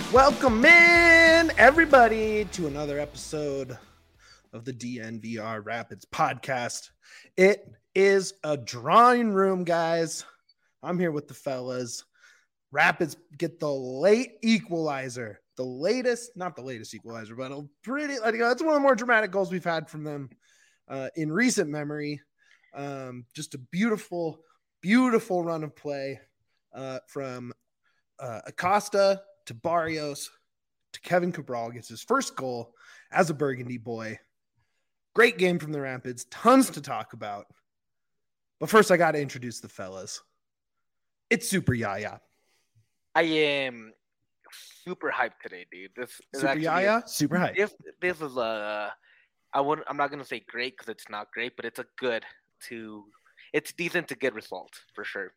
Welcome in, everybody, to another episode of the DNVR Rapids podcast. It is a drawing room, guys. I'm here with the fellas. Rapids get the late equalizer. The latest, not the latest equalizer, but a pretty, it's one of the more dramatic goals we've had from them in recent memory. Just a beautiful, beautiful run of play from Acosta to Barrios to Kevin Cabral. Gets his first goal as a Burgundy boy. Great game from the Rapids. Tons to talk about. But first, I got to introduce the fellas. It's Super Yaya. I am super hyped today, dude. This is Super Yaya, super hyped. This is I'm not gonna say great because it's not great, but it's it's decent to good result for sure.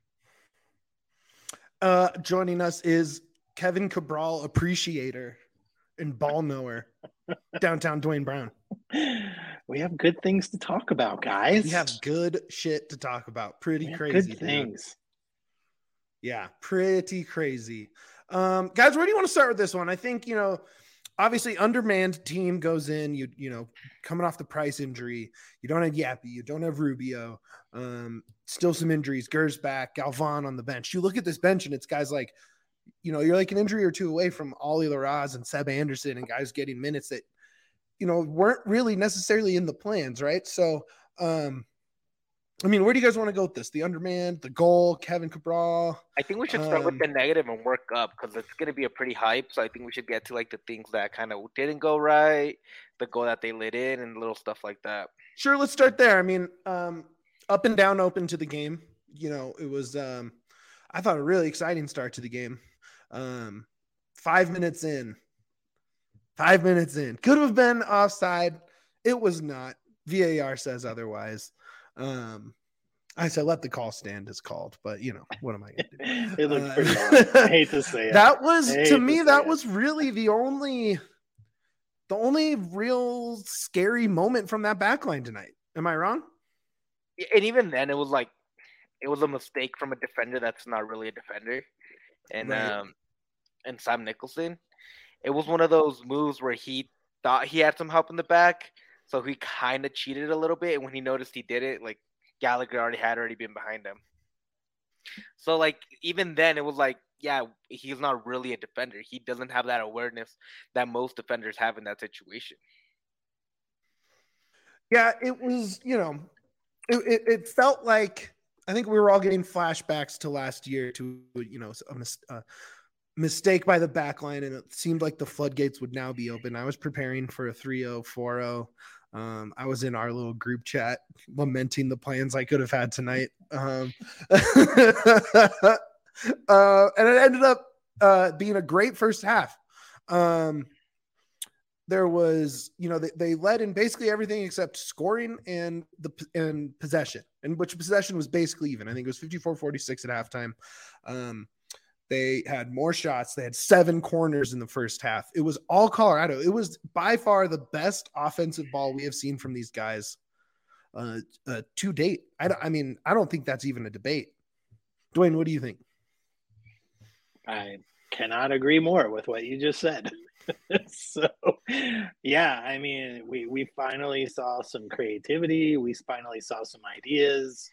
Joining us is Kevin Cabral appreciator and ball knower, downtown Dwayne Brown. We have good things to talk about, guys. We have good shit to talk about. Pretty crazy good things. Dude. Yeah, pretty crazy. Guys, where do you want to start with this one? I think, obviously undermanned team goes in, coming off the Price injury. You don't have Yappy. You don't have Rubio. Still some injuries. Gers back. Galvan on the bench. You look at this bench and it's guys like, you're like an injury or two away from Ollie Larraz and Seb Anderson and guys getting minutes that, weren't really necessarily in the plans, right? So, where do you guys want to go with this? The undermanned, the goal, Kevin Cabral? I think we should start with the negative and work up because it's going to be a pretty hype. So I think we should get to the things that kind of didn't go right, the goal that they lit in, and little stuff like that. Sure, let's start there. Up and down open to the game. It was, I thought, a really exciting start to the game. 5 minutes in. Could have been offside. It was not. VAR says otherwise. I said let the call stand as called, but what am I gonna do? It looked pretty hard. I hate to say it. That was was really the only real scary moment from that backline tonight. Am I wrong? And even then it was a mistake from a defender that's not really a defender. And right. And Sam Nicholson. It was one of those moves where he thought he had some help in the back. So he kind of cheated a little bit, and when he noticed he did it, Gallagher already been behind him. So even then, it was he's not really a defender. He doesn't have that awareness that most defenders have in that situation. Yeah, it was. It felt like I think we were all getting flashbacks to last year to a mistake by the back line, and it seemed like the floodgates would now be open. I was preparing for a 3-0, 4-0. I was in our little group chat lamenting the plans I could have had tonight. And it ended up being a great first half. There was, they led in basically everything except scoring and possession, and which possession was basically even. I think it was 54-46 at halftime. They had more shots. They had 7 corners in the first half. It was all Colorado. It was by far the best offensive ball we have seen from these guys to date. I don't think that's even a debate. Dwayne, what do you think? I cannot agree more with what you just said. So, yeah, we finally saw some creativity. We finally saw some ideas.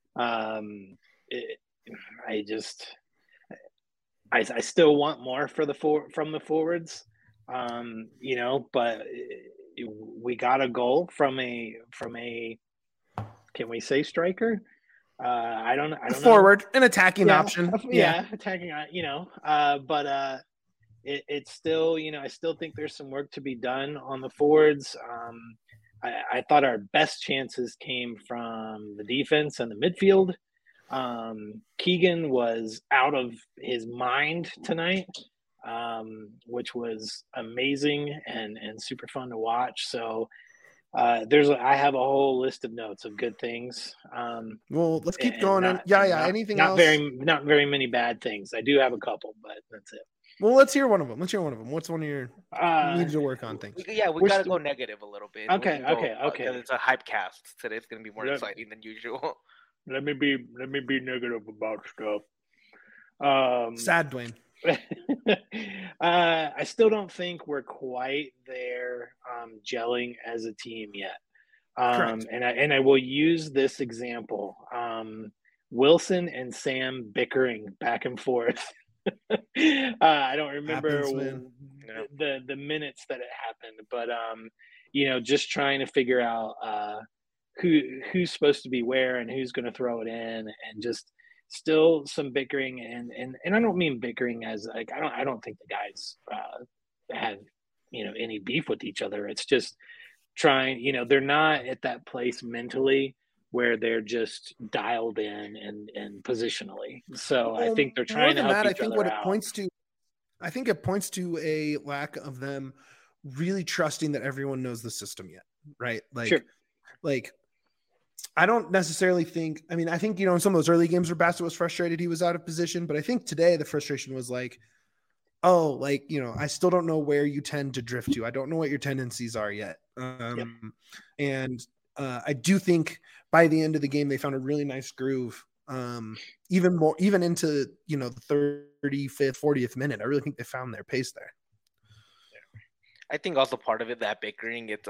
I still want more from the forwards, but we got a goal from a can we say striker? I don't forward, know. An attacking option. Yeah, attacking. But it's still, I still think there's some work to be done on the forwards. I thought our best chances came from the defense and the midfield. Keegan was out of his mind tonight, which was amazing and super fun to watch. So I have a whole list of notes of good things. Well, let's keep going. Anything else? Not very many bad things. I do have a couple, but that's it. Well, let's hear one of them. What's one of your needs to work on things? We got to go negative a little bit. Okay. It's a hype cast. Today's going to be more exciting than usual. Let me be negative about stuff. Sad, Dwayne. I still don't think we're quite there gelling as a team yet. Correct. And I will use this example. Wilson and Sam bickering back and forth. I don't remember Happens, man. the minutes that it happened, but just trying to figure out who's supposed to be where and who's going to throw it in, and just still some bickering, and I don't mean bickering as like I don't think the guys have any beef with each other. It's just trying, they're not at that place mentally where they're just dialed in and positionally. So I think they're trying to help each other out. I think it points to a lack of them really trusting that everyone knows the system yet, right? Like, sure. Like, I don't necessarily think. I mean, I think in some of those early games where Bassett was frustrated, he was out of position. But I think today the frustration was like, oh, like I still don't know where you tend to drift to. I don't know what your tendencies are yet. Yep. And I do think by the end of the game they found a really nice groove. Even into the 35th, 40th minute, I really think they found their pace there. Yeah. I think also part of it, that bickering, it's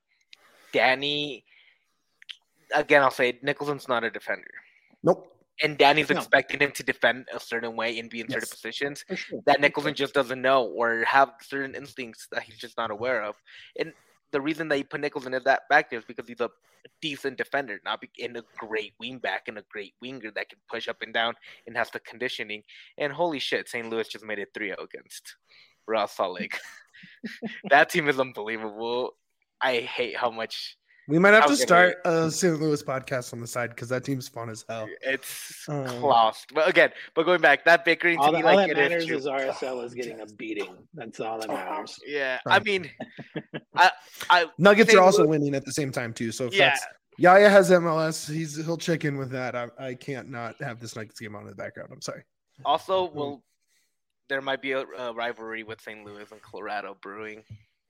Danny. Again, I'll say Nicholson's not a defender. Nope. And Danny's expecting him to defend a certain way and be in certain positions that Nicholson just doesn't know, or have certain instincts that he's just not aware of. And the reason that you put Nicholson in that back there is because he's a decent defender, not in a great wing back and a great winger that can push up and down and has the conditioning. And holy shit, St. Louis just made it 3-0 against Real Salt Lake. That team is unbelievable. I hate how much. We might have to start a St. Louis podcast on the side because that team's fun as hell. It's lost. But going back, that bickering to me, all that matters is RSL is getting a beating. That's all that matters. Yeah, I mean, Nuggets are also winning at the same time too. So if Yaya has MLS, he'll check in with that. I can't not have this Nuggets game on in the background. I'm sorry. Also, there might be a rivalry with St. Louis and Colorado brewing.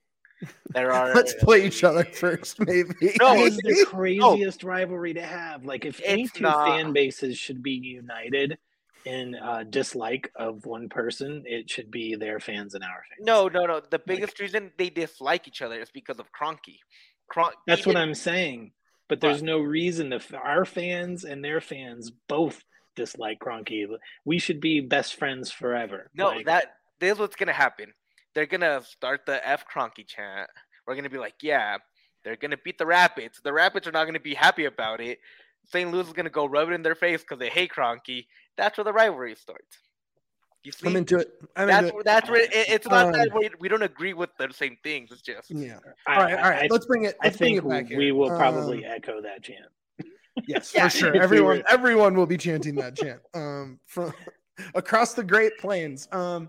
Let's play each other first, maybe. No, it's the craziest rivalry to have. Like, if any two fan bases should be united in dislike of one person, it should be their fans and our fans. No. The biggest reason they dislike each other is because of Kroenke. That's what I'm saying. But there's no reason our fans and their fans both dislike Kroenke. We should be best friends forever. No, this is what's gonna happen. They're going to start the F Kroenke chant. We're going to be like, yeah, they're going to beat the Rapids. The Rapids are not going to be happy about it. St. Louis is going to go rub it in their face because they hate Kroenke. That's where the rivalry starts. You see? I'm into it. That's where it's not that we don't agree with the same things. It's just. Yeah. All right. Let's bring it. I think we will probably echo that chant. Yes, for sure. Everyone will be chanting that chant from across the Great Plains.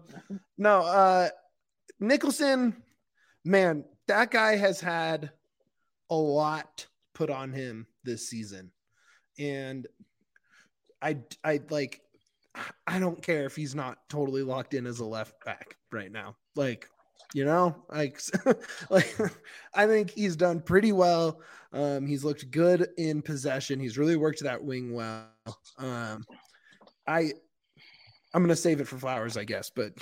Nicholson, man, that guy has had a lot put on him this season. And I don't care if he's not totally locked in as a left back right now. I think he's done pretty well. He's looked good in possession. He's really worked that wing well. I'm going to save it for Flowers, I guess, but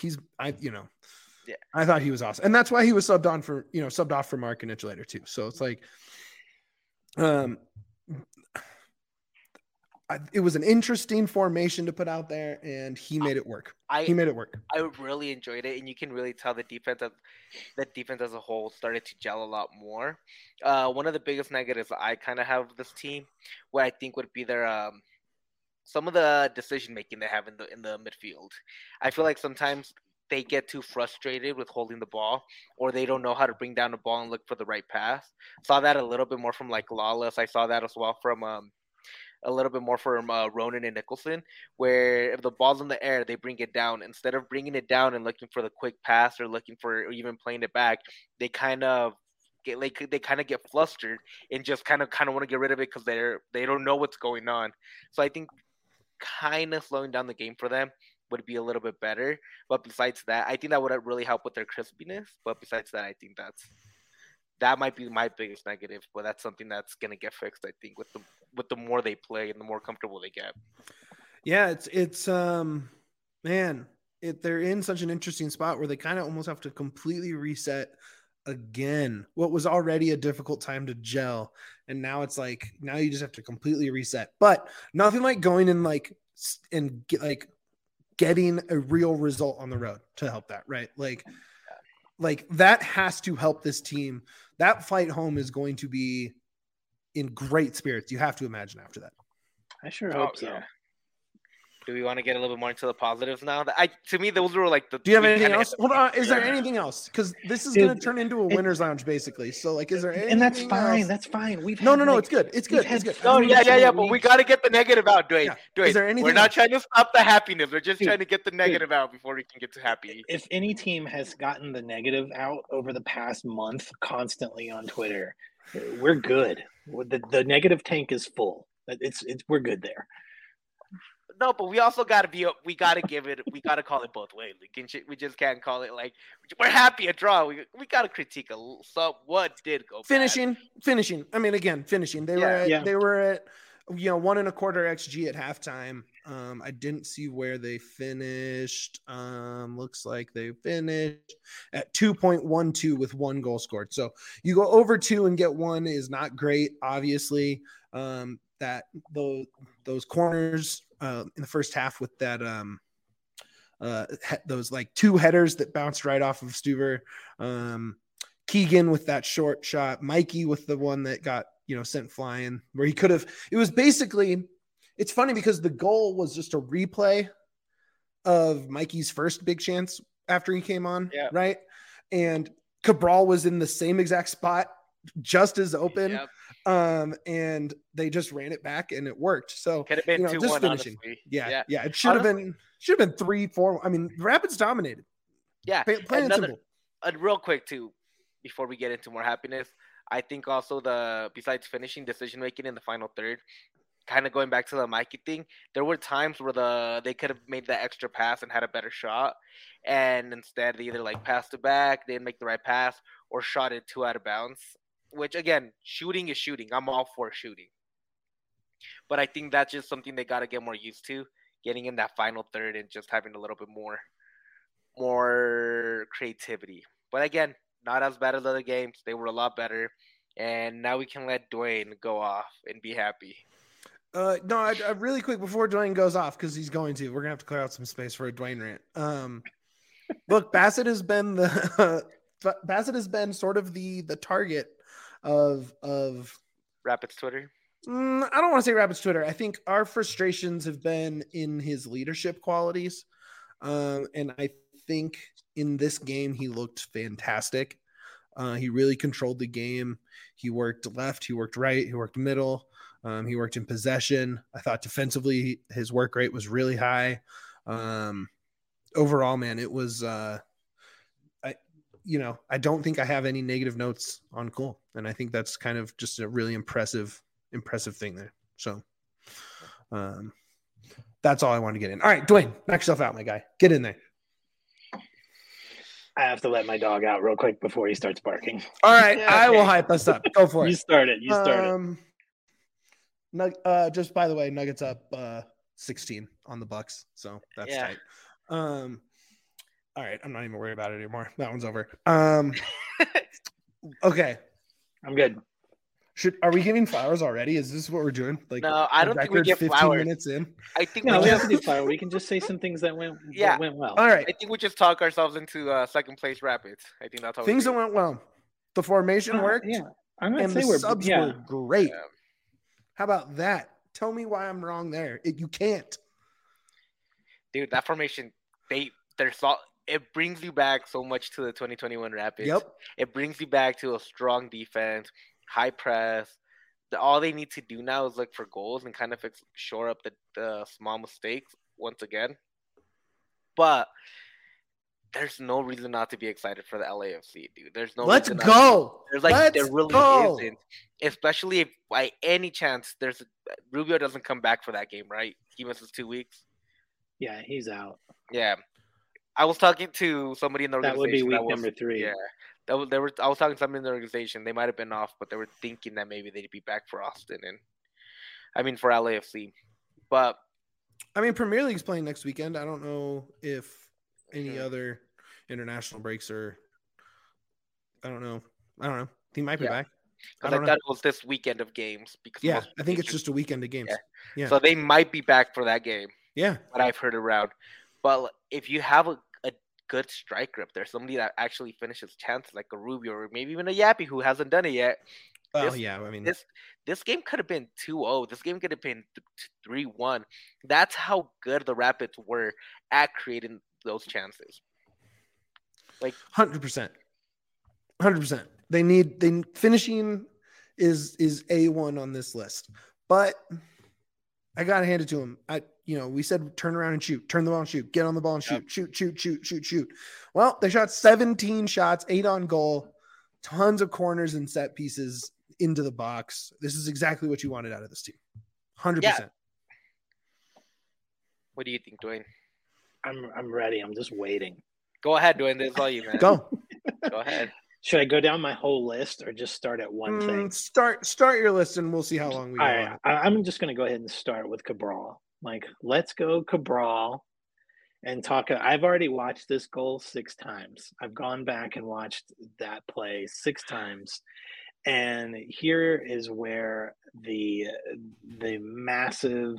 I thought he was awesome. And that's why he was subbed off for Markinich later too. So it's like, it was an interesting formation to put out there, and he made it work. I really enjoyed it, and you can really tell the defense as a whole started to gel a lot more. One of the biggest negatives I kind of have with this team, what I think would be their some of the decision making they have in the midfield. I feel like sometimes they get too frustrated with holding the ball, or they don't know how to bring down the ball and look for the right pass. Saw that a little bit more from like Lawless. I saw that as well from a little bit more from Ronan and Nicholson, where if the ball's in the air, they bring it down. Instead of bringing it down and looking for the quick pass or looking for or even playing it back, they kind of get flustered and just kind of want to get rid of it because they don't know what's going on. So I think kind of slowing down the game for them would be a little bit better. But besides that, I think that would really help with their crispiness. But besides that, I think that might be my biggest negative. But that's something that's gonna get fixed, I think, with the more they play and the more comfortable they get. Yeah, it's man, they're in such an interesting spot where they kind of almost have to completely reset again what was already a difficult time to gel, and now it's like now you just have to completely reset. But nothing like going in and getting a real result on the road to help that, right? Like that has to help this team. That flight home is going to be in great spirits, you have to imagine, after that. I sure hope so. Yeah. Do we want to get a little bit more into the positives now? To me, those were like the. Do you have anything else? Hold on. Is there anything else? Because this is going to turn into a winner's lounge, basically. So, like, is there anything? And that's fine. Else? That's fine. No. It's good. It's good. No, yeah. But we got to get the negative out, Dwayne. Yeah. Is there anything? We're not trying to stop the happiness. We're just trying to get the negative out before we can get to happy. If any team has gotten the negative out over the past month constantly on Twitter, we're good. The negative tank is full. We're good there. No, but we also got to we got to call it both ways. We just can't call it like we're happy a draw. We got to critique what did go finishing. I mean, again, finishing. They were at 1.25 XG at halftime. I didn't see where they finished. Looks like they finished at 2.12 with 1 goal scored. So you go over 2 and get 1 is not great, obviously. That those corners in the first half with that those like 2 headers that bounced right off of Stuver, Keegan with that short shot, Mikey with the one that got sent flying where he could have. It was basically, it's funny because the goal was just a replay of Mikey's first big chance after he came on, right? And Cabral was in the same exact spot, just as open. Yep. And they just ran it back and it worked. So could have been 2-1, just finishing. Honestly. Yeah. It should have been 3-4. I mean, the Rapids dominated. Yeah. Plain and simple. Real quick too, before we get into more happiness, I think also besides finishing, decision making in the final third, kind of going back to the Mikey thing, there were times where they could have made that extra pass and had a better shot, and instead they either like passed it back, they didn't make the right pass, or shot it 2 out of bounds. Which again, shooting is shooting. I'm all for shooting, but I think that's just something they got to get more used to, getting in that final third and just having a little bit more creativity. But again, not as bad as other games. They were a lot better, and now we can let Dwayne go off and be happy. No, really quick before Dwayne goes off, because he's going to. We're gonna have to clear out some space for a Dwayne rant. Look, Bassett has been sort of the target of Rapids Twitter. I don't want to say Rapids Twitter. I think our frustrations have been in his leadership qualities, and I think in this game he looked fantastic. He really controlled the game. He worked left, he worked right, he worked middle, he worked in possession. I thought defensively his work rate was really high. Overall, man, it was I don't think I have any negative notes on Cole, and I think that's kind of just a really impressive thing there. So that's all I want to get in. All right, Dwayne, knock yourself out, my guy. Get in there. I have to let my dog out real quick before he starts barking. All right, yeah, I will hype us up. Go for it. You start it. Just by the way, Nuggets up 16 on the Bucks, so that's tight. All right, I'm not even worried about it anymore. That one's over. Okay, I'm good. Are we giving flowers already? Is this what we're doing? Like, no, I don't think we give 15 flowers. Minutes in. I think we have to do flowers. We can just say some things that went well. All right. I think we just talk ourselves into second place Rapids. I think that's how things that went well. The formation worked. Yeah, I'm gonna say the subs were great. Yeah. How about that? Tell me why I'm wrong there. You can't, dude. That formation, it brings you back so much to the 2021 Rapids. Yep. It brings you back to a strong defense, high press. All they need to do now is look for goals and kind of shore up the small mistakes once again. But there's no reason not to be excited for the LAFC, dude. There's no. Let's go. There really isn't. Especially if by any chance Rubio doesn't come back for that game, right? He misses 2 weeks. Yeah, he's out. Yeah. I was talking to somebody in the organization. That would be week number 3. Yeah. I was talking to somebody in the organization. They might have been off, but they were thinking that maybe they'd be back for Austin for LAFC. But I mean, Premier League's playing next weekend. I don't know if any other international breaks or I don't know. He might be back. Because I thought it was this weekend of games. Because I think it's just a weekend of games. Yeah. So they might be back for that game. Yeah. What I've heard around. But if you have a good striker up there, somebody that actually finishes chances like a Rubio or maybe even a Yappy who hasn't done it yet. Well, I mean, this game could have been 2-0. This game could have been 3-1. That's how good the Rapids were at creating those chances. Like 100%. 100%. They finishing is A1 on this list. But I gotta hand it to him. We said turn around and shoot, turn the ball and shoot, get on the ball and shoot, shoot. Well, they shot 17 shots, 8 on goal, tons of corners and set pieces into the box. This is exactly what you wanted out of this team. 100%. Yeah. What do you think, Dwayne? I'm ready. I'm just waiting. Go ahead, Dwayne. This is all you, man. Go ahead. Should I go down my whole list or just start at one thing? Start your list and we'll see how long we go. Right, I'm just going to go ahead and start with Cabral. Like, let's go Cabral and talk. I've already watched this goal 6 times. I've gone back and watched that play 6 times. And here is where the massive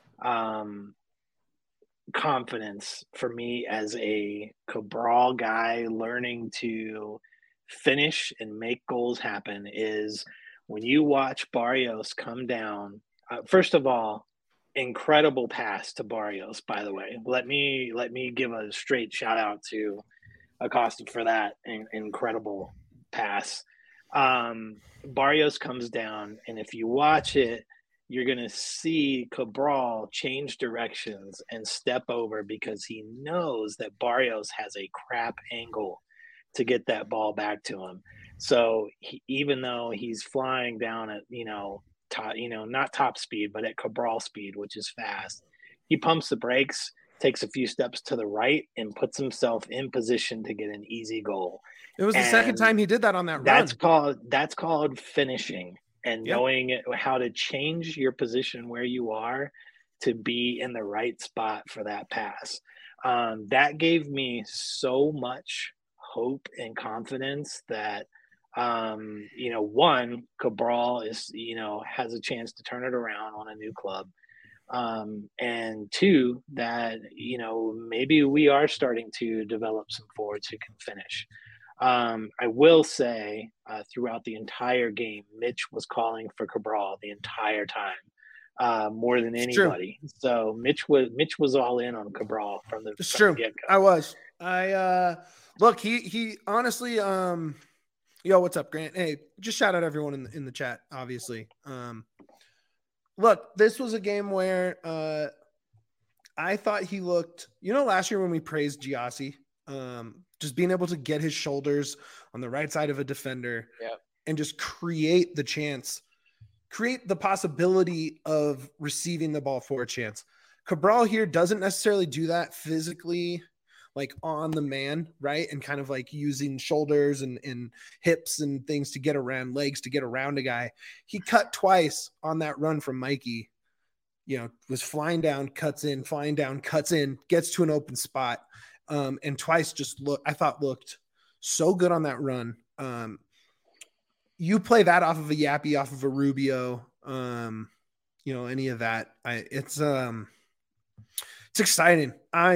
confidence for me as a Cabral guy learning to finish and make goals happen is when you watch Barrios come down. First of all, incredible pass to Barrios, by the way. Let me give a straight shout out to Acosta for that incredible pass. Barrios comes down, and if you watch it, you're going to see Cabral change directions and step over because he knows that Barrios has a crap angle to get that ball back to him. So even though he's flying down at, not top speed, but at Cabral speed, which is fast, he pumps the brakes, takes a few steps to the right, and puts himself in position to get an easy goal. It was the second time he did that on that run. That's called finishing and knowing how to change your position where you are to be in the right spot for that pass. That gave me so much hope and confidence that, one, Cabral is, has a chance to turn it around on a new club. And 2, that, maybe we are starting to develop some forwards who can finish. I will say throughout the entire game, Mitch was calling for Cabral the entire time, more than anybody. True. So Mitch was all in on Cabral from the get-go. I was. Look, he honestly, yo, what's up, Grant? Hey, just shout out everyone in the chat, obviously. Look, this was a game where I thought he looked, last year when we praised Giassi, just being able to get his shoulders on the right side of a defender and just create the possibility of receiving the ball for a chance. Cabral here doesn't necessarily do that physically, like on the man, right? And kind of like using shoulders and hips and things to get around, legs to get around a guy. He cut twice on that run from Mikey, was flying down, cuts in, flying down, cuts in, gets to an open spot. And twice I thought looked so good on that run. You play that off of a Yappy, off of a Rubio, any of that. It's exciting.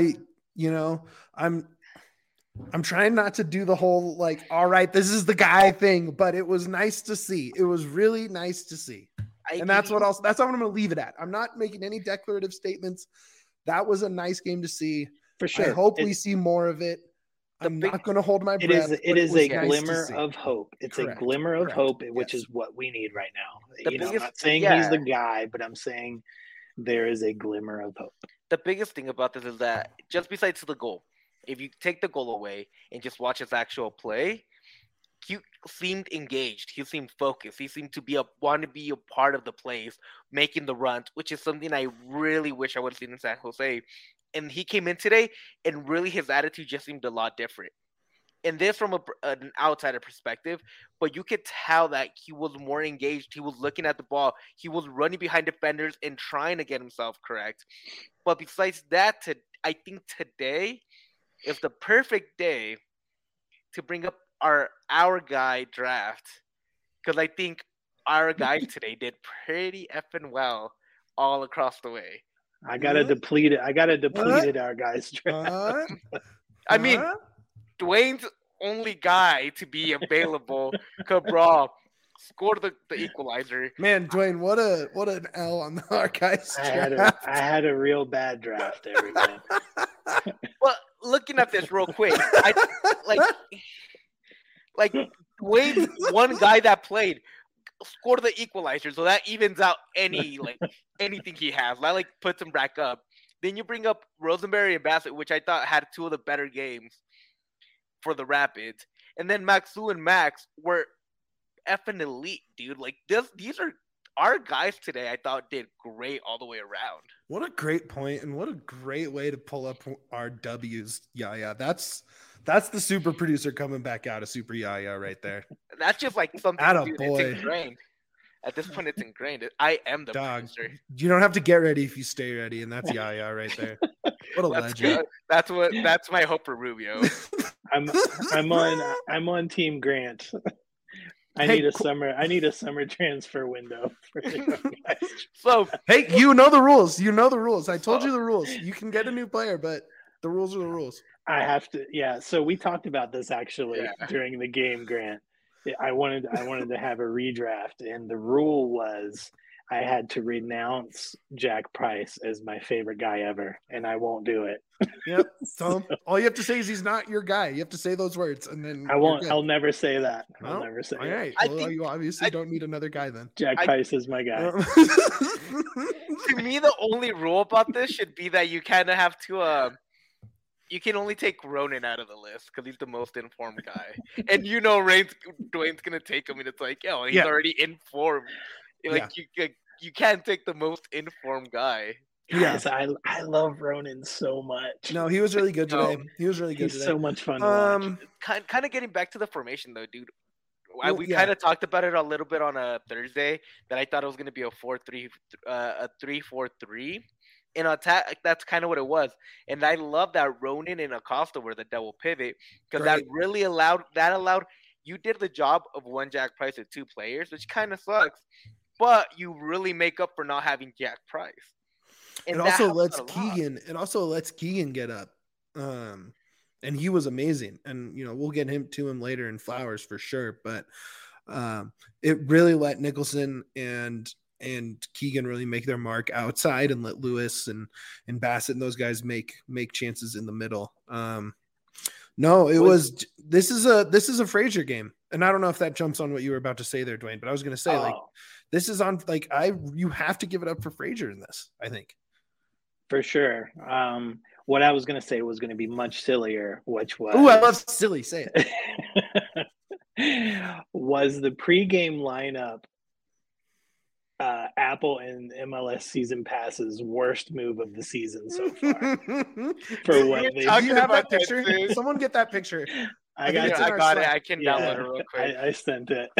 I'm trying not to do the whole, like, all right, this is the guy thing, but it was nice to see. It was really nice to see. That's what I'm going to leave it at. I'm not making any declarative statements. That was a nice game to see. For sure. I hope we see more of it. I'm not going to hold my breath. It is a glimmer of hope. It's a glimmer of hope, which is what we need right now. I'm not saying he's the guy, but I'm saying there is a glimmer of hope. The biggest thing about this is that just besides the goal, if you take the goal away and just watch his actual play, he seemed engaged. He seemed focused. He seemed to want to be a part of the plays, making the runs, which is something I really wish I would have seen in San Jose. And he came in today, and really his attitude just seemed a lot different. And this from an outsider perspective, but you could tell that he was more engaged. He was looking at the ball. He was running behind defenders and trying to get himself correct. But besides that, I think today it's the perfect day to bring up our guy draft, because I think our guys today did pretty effing well all across the way. I gotta deplete it. Our guys. I mean, Dwayne's only guy to be available, Cabral, scored the equalizer. Man, Dwayne, what an L on our guys. I had a real bad draft there, man. Well, looking at this real quick, like Dwayne's one guy that played scored the equalizer, so that evens out anything he has. That puts him back up. Then you bring up Rosenberry and Bassett, which I thought had two of the better games for the Rapids, and then Maxu and Max were effing elite, dude. These are our guys today. I thought did great all the way around. What a great point, and what a great way to pull up our W's. Yeah, that's the super producer coming back out of Super Yaya right there. That's just something it's ingrained. At this point, it's ingrained. I am the producer. You don't have to get ready if you stay ready, and that's Yaya right there. What a legend. Good. That's my hope for Rubio. I'm on Team Grant. I need a summer transfer window for the guys. So hey, you know the rules. I told you the rules. You can get a new player, but the rules are the rules. I have to, yeah. So we talked about this actually during the game, Grant. I wanted to have a redraft, and the rule was I had to renounce Jack Price as my favorite guy ever, and I won't do it. Yep. So all you have to say is he's not your guy. You have to say those words, and then I won't. I'll never say that. Well, I'll never say. All right. Well, you obviously don't need another guy then. Jack Price is my guy. To me, the only rule about this should be that you kind of have to. You can only take Ronan out of the list because he's the most informed guy, and Dwayne's gonna take him, and it's he's already informed. You can't take the most informed guy. Yes, I love Ronan so much. No, he was really good today. He's so much fun to watch. Kind of getting back to the formation though, dude. We kind of talked about it a little bit on a Thursday that I thought it was going to be a 3-4-3. In attack, that's kind of what it was. And I love that Ronan and Acosta were the double pivot because that really allowed you did the job of one Jack Price with two players, which kind of sucks, but you really make up for not having Jack Price. And it also lets Keegan get up. And he was amazing. And, we'll get to him later in Flowers for sure. But it really let Nicholson and Keegan really make their mark outside and let Lewis and Bassett and those guys make chances in the middle. This is a Frazier game. And I don't know if that jumps on what you were about to say there, Dwayne, but I was going to say this is on you have to give it up for Frazier in this, I think. For sure. What I was going to say was going to be much sillier, which was... Ooh, I love silly. Say it. Was the pregame lineup Apple and MLS season passes worst move of the season so far? For what they do. You have that picture? Someone get that picture. I got it. I can download it real quick. I sent it.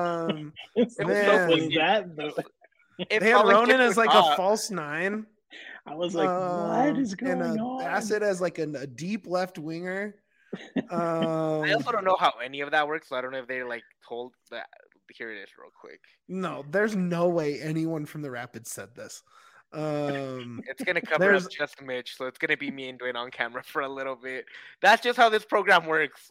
They had Ronan as a false nine. I was like, what is going on? Bassett as a deep left winger. I also don't know how any of that works, so I don't know if they told that. Here it is real quick. No, there's no way anyone from the Rapids said this. It's going to cover up just Mitch, so it's going to be me and Dwayne on camera for a little bit. That's just how this program works.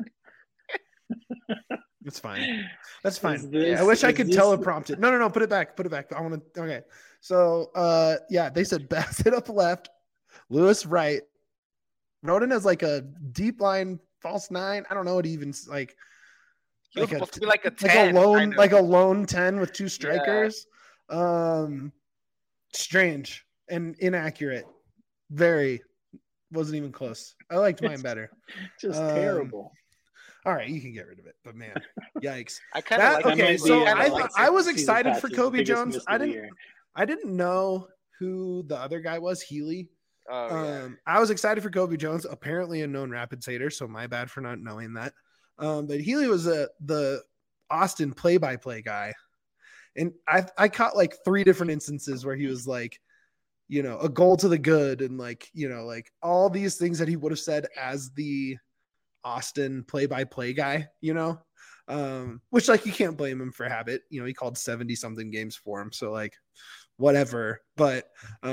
It's fine. That's fine. I wish I could teleprompt it. No, put it back. I want to. Okay. So, they said Bassett up left, Lewis right. Ronan as a deep line false nine. I don't know what even He was supposed to be a 10. A lone 10 with two strikers. Yeah. Strange and inaccurate. Wasn't even close. I liked mine better. Just terrible. All right, you can get rid of it, but man, yikes! I kind of like. Okay, so I was excited for Kobe Jones. I didn't know who the other guy was. Healy. I was excited for Kobe Jones. Apparently a known Rapids hater, so my bad for not knowing that. But Healy was the Austin play-by-play guy, and I caught 3 different instances where he was a goal to the good, and like all these things that he would have said as the Austin play-by-play guy, which like you can't blame him for habit. He called 70 something games for him, so like whatever. But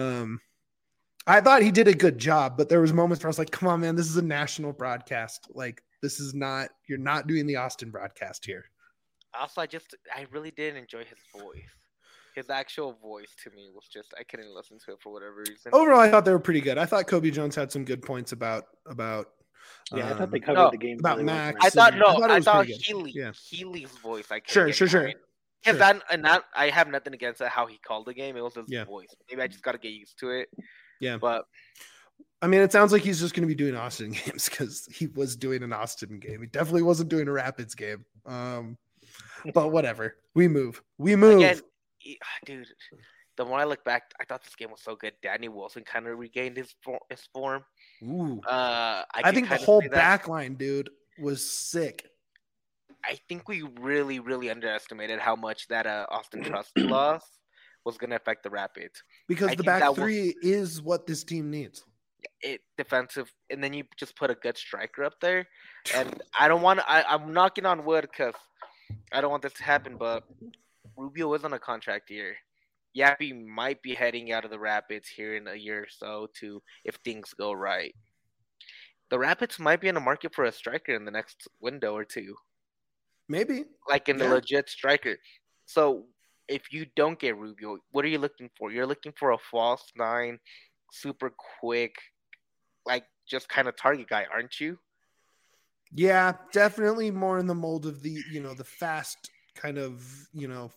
I thought he did a good job, but there was moments where I was like, come on, man, this is a national broadcast. Like, this is not, you're not doing the Austin broadcast here. Also, I really did enjoy his voice. His actual voice to me was just, I couldn't listen to it for whatever reason. Overall, I thought they were pretty good. I thought Kobe Jones had some good points about I thought they covered the game about really Max. well. I thought Healy's voice. Sure. Because I have nothing against how he called the game. It was his voice. Maybe I just got to get used to it. Yeah. But I mean, it sounds like he's just going to be doing Austin games because he was doing an Austin game. He definitely wasn't doing a Rapids game. But whatever. We move. Again, dude, the more I look back, I thought this game was so good. Danny Wilson kind of regained his form. Ooh. I think the whole back line, dude, was sick. I think we really, really underestimated how much that Austin Trust loss was going to affect the Rapids. Because the back three is what this team needs. Defensive, and then you just put a good striker up there. And I'm knocking on wood because I don't want this to happen, but Rubio is on a contract year. Yappy might be heading out of the Rapids here in a year or so if things go right. The Rapids might be in the market for a striker in the next window or two. Maybe. Like in the legit striker. So if you don't get Rubio, what are you looking for? You're looking for a false nine, super quick, like just kind of target guy, aren't you? Yeah, definitely more in the mold of the, the fast kind of, you're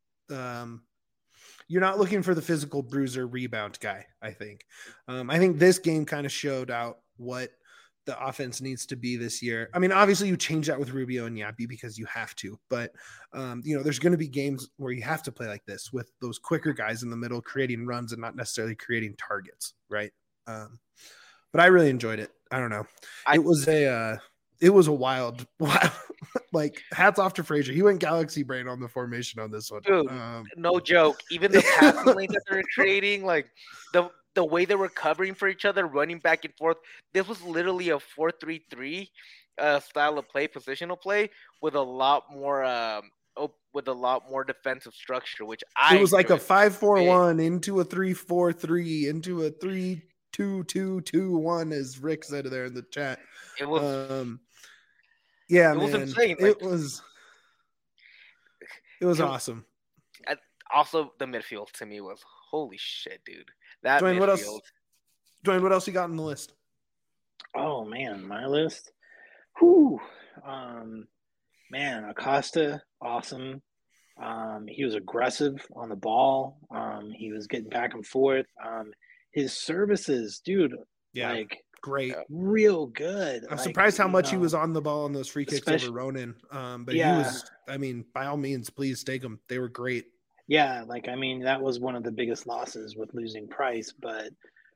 not looking for the physical bruiser rebound guy, I think. I think this game kind of showed out what the offense needs to be this year. I mean, obviously you change that with Rubio and Yappy because you have to, but there's going to be games where you have to play like this with those quicker guys in the middle, creating runs and not necessarily creating targets. Right. But I really enjoyed it. I don't know. It was a wild, like hats off to Frazier. He went galaxy brain on the formation on this one. Dude, no joke. Even the passing lanes that they were creating, like the way they were covering for each other, running back and forth. This was literally a 4-3-3 style of play, positional play with a lot more defensive structure, which it was like a 5-4-1 into a 3-4-3 into a 3-2-2-2-1, as Rick said there in the chat. It was it was insane. It was awesome. Also, the midfield to me was holy shit, dude. That Dwayne, midfield. Dwayne, what else you got on the list? Oh man, my list. Whew. Man, Acosta, awesome. He was aggressive on the ball. He was getting back and forth. His services, dude, great, real good. I'm surprised how much he was on the ball on those free kicks over Ronan. But he was, I mean, by all means, please take them. They were great. Yeah, that was one of the biggest losses with losing Price, but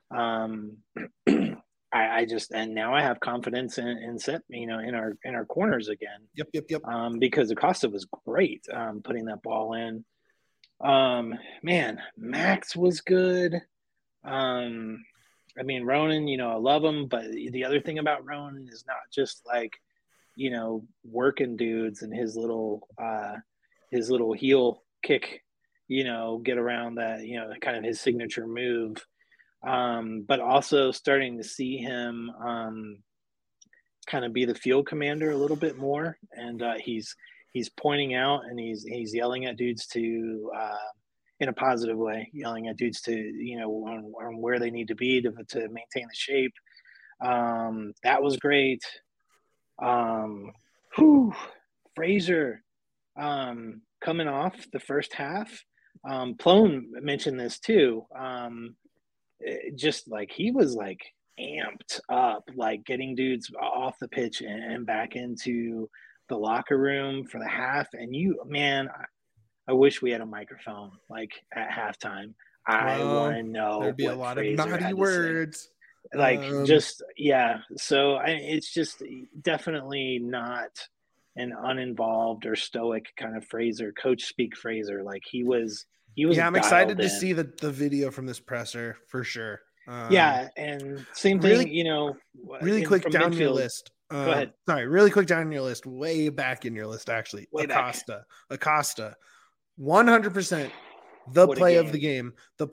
I just, and now I have confidence in set, in our corners again. Yep. Because Acosta was great putting that ball in. Man, Max was good. Ronan, I love him, but the other thing about Ronan is not just working dudes and his little heel kick, get around that, kind of his signature move. But also starting to see him kind of be the field commander a little bit more. And he's pointing out and he's yelling at dudes to in a positive way, yelling at dudes to, on where they need to be to maintain the shape. That was great. Frazier coming off the first half. Plone mentioned this too. Just he was amped up, getting dudes off the pitch and back into the locker room for the half. And I wish we had a microphone at halftime. I want to know. There'd be a lot of naughty words. So it's just definitely not an uninvolved or stoic kind of Fraser, coach speak Fraser. He was He was I'm excited to in. see the video from this presser for sure. Yeah, and same thing, really quick down midfield. your list. Go ahead. Sorry, really quick down your list, way back in your list, actually. Way Acosta, 100% the play of the game,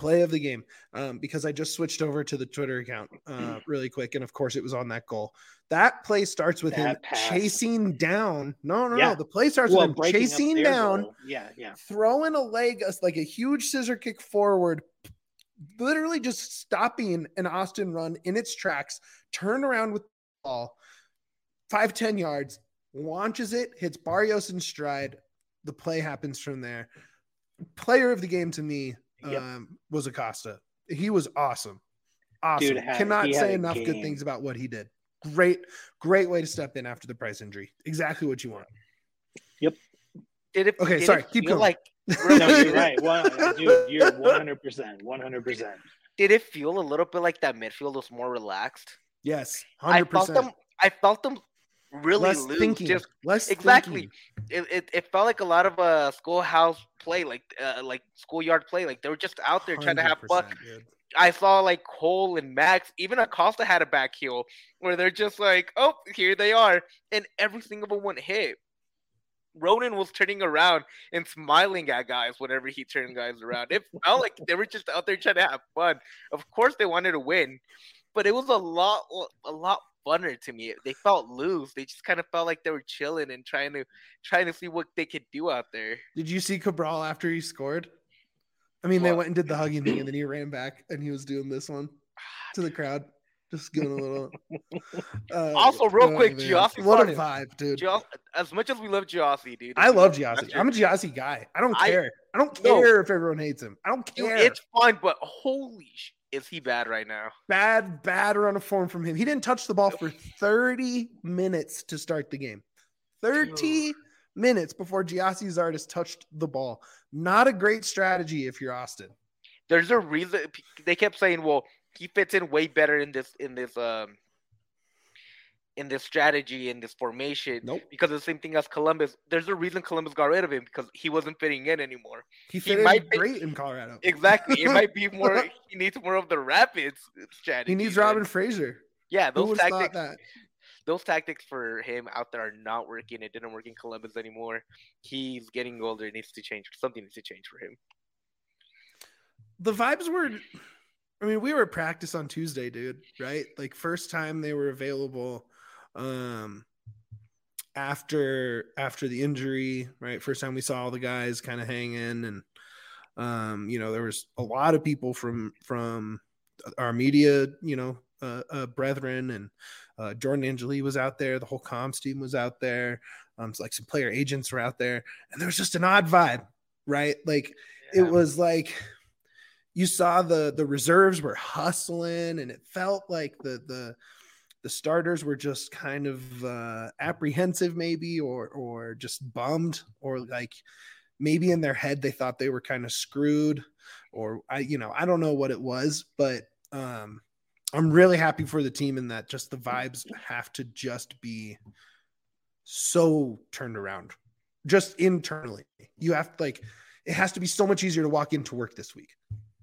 because I just switched over to the Twitter account really quick, and of course it was on that goal. That play starts with him chasing down. No. The play starts with him chasing down. Goal. Yeah. Throwing a leg, like a huge scissor kick forward, literally just stopping an Austin run in its tracks, turn around with the ball, 5-10 yards, launches it, hits Barrios in stride. The play happens from there. Player of the game to me was Acosta. He was awesome. Dude, cannot say enough good things about what he did. Great way to step in after the Price injury. Exactly what you want. Yep. Keep going. Like, no, you're right. Dude, you're 100%. Did it feel a little bit like that midfield was more relaxed? Yes, 100%. I felt them really less loose. Thinking. Less exactly. Thinking. It felt like a lot of schoolhouse play, like schoolyard play. Like they were just out there trying to have fun. Dude. I saw like Cole and Max, even Acosta had a back heel where they're just like, oh, here they are, and every single one hit. Ronan was turning around and smiling at guys whenever he turned guys around. It felt like they were just out there trying to have fun. Of course, they wanted to win, but it was a lot funner to me. They felt loose. They just kind of felt like they were chilling and trying to see what they could do out there. Did you see Cabral after he scored? I mean, they went and did the hugging thing, and then he ran back, and he was doing this one to the crowd, just giving a little. Also, real quick, Giossi. What a vibe, dude! As much as we love Giossi, dude. I love Giossi. I'm a Giossi guy. I don't care. I don't care if everyone hates him. I don't care. Dude, it's fine, but holy shit, is he bad right now? Bad run of form from him. He didn't touch the ball for 30 minutes to start the game. 30 minutes before Giossi Zardes touched the ball. Not a great strategy if you're Austin. There's a reason they kept saying, well, he fits in way better in this strategy, in this formation. Nope. Because of the same thing as Columbus. There's a reason Columbus got rid of him, because he wasn't fitting in anymore. He fit in great in Colorado. Exactly. It might be more. He needs more of the Rapids strategy. He needs Robin Fraser. Yeah, those tactics for him out there are not working. It didn't work in Columbus anymore. He's getting older. It needs to change. Something needs to change for him. The vibes were, I mean, we were at practice on Tuesday, dude, right? Like first time they were available after the injury, right? First time we saw all the guys kind of hang in, and there was a lot of people from our media, brethren, and Jordan Angeli was out there. The whole comms team was out there. Like some player agents were out there, and there was just an odd vibe, right? Like It was like you saw the reserves were hustling, and it felt like the starters were just kind of apprehensive, maybe, or just bummed, or like maybe in their head they thought they were kind of screwed, or I don't know what it was, but I'm really happy for the team in that just the vibes have to just be so turned around, just internally. You have to, like, it has to be so much easier to walk into work this week.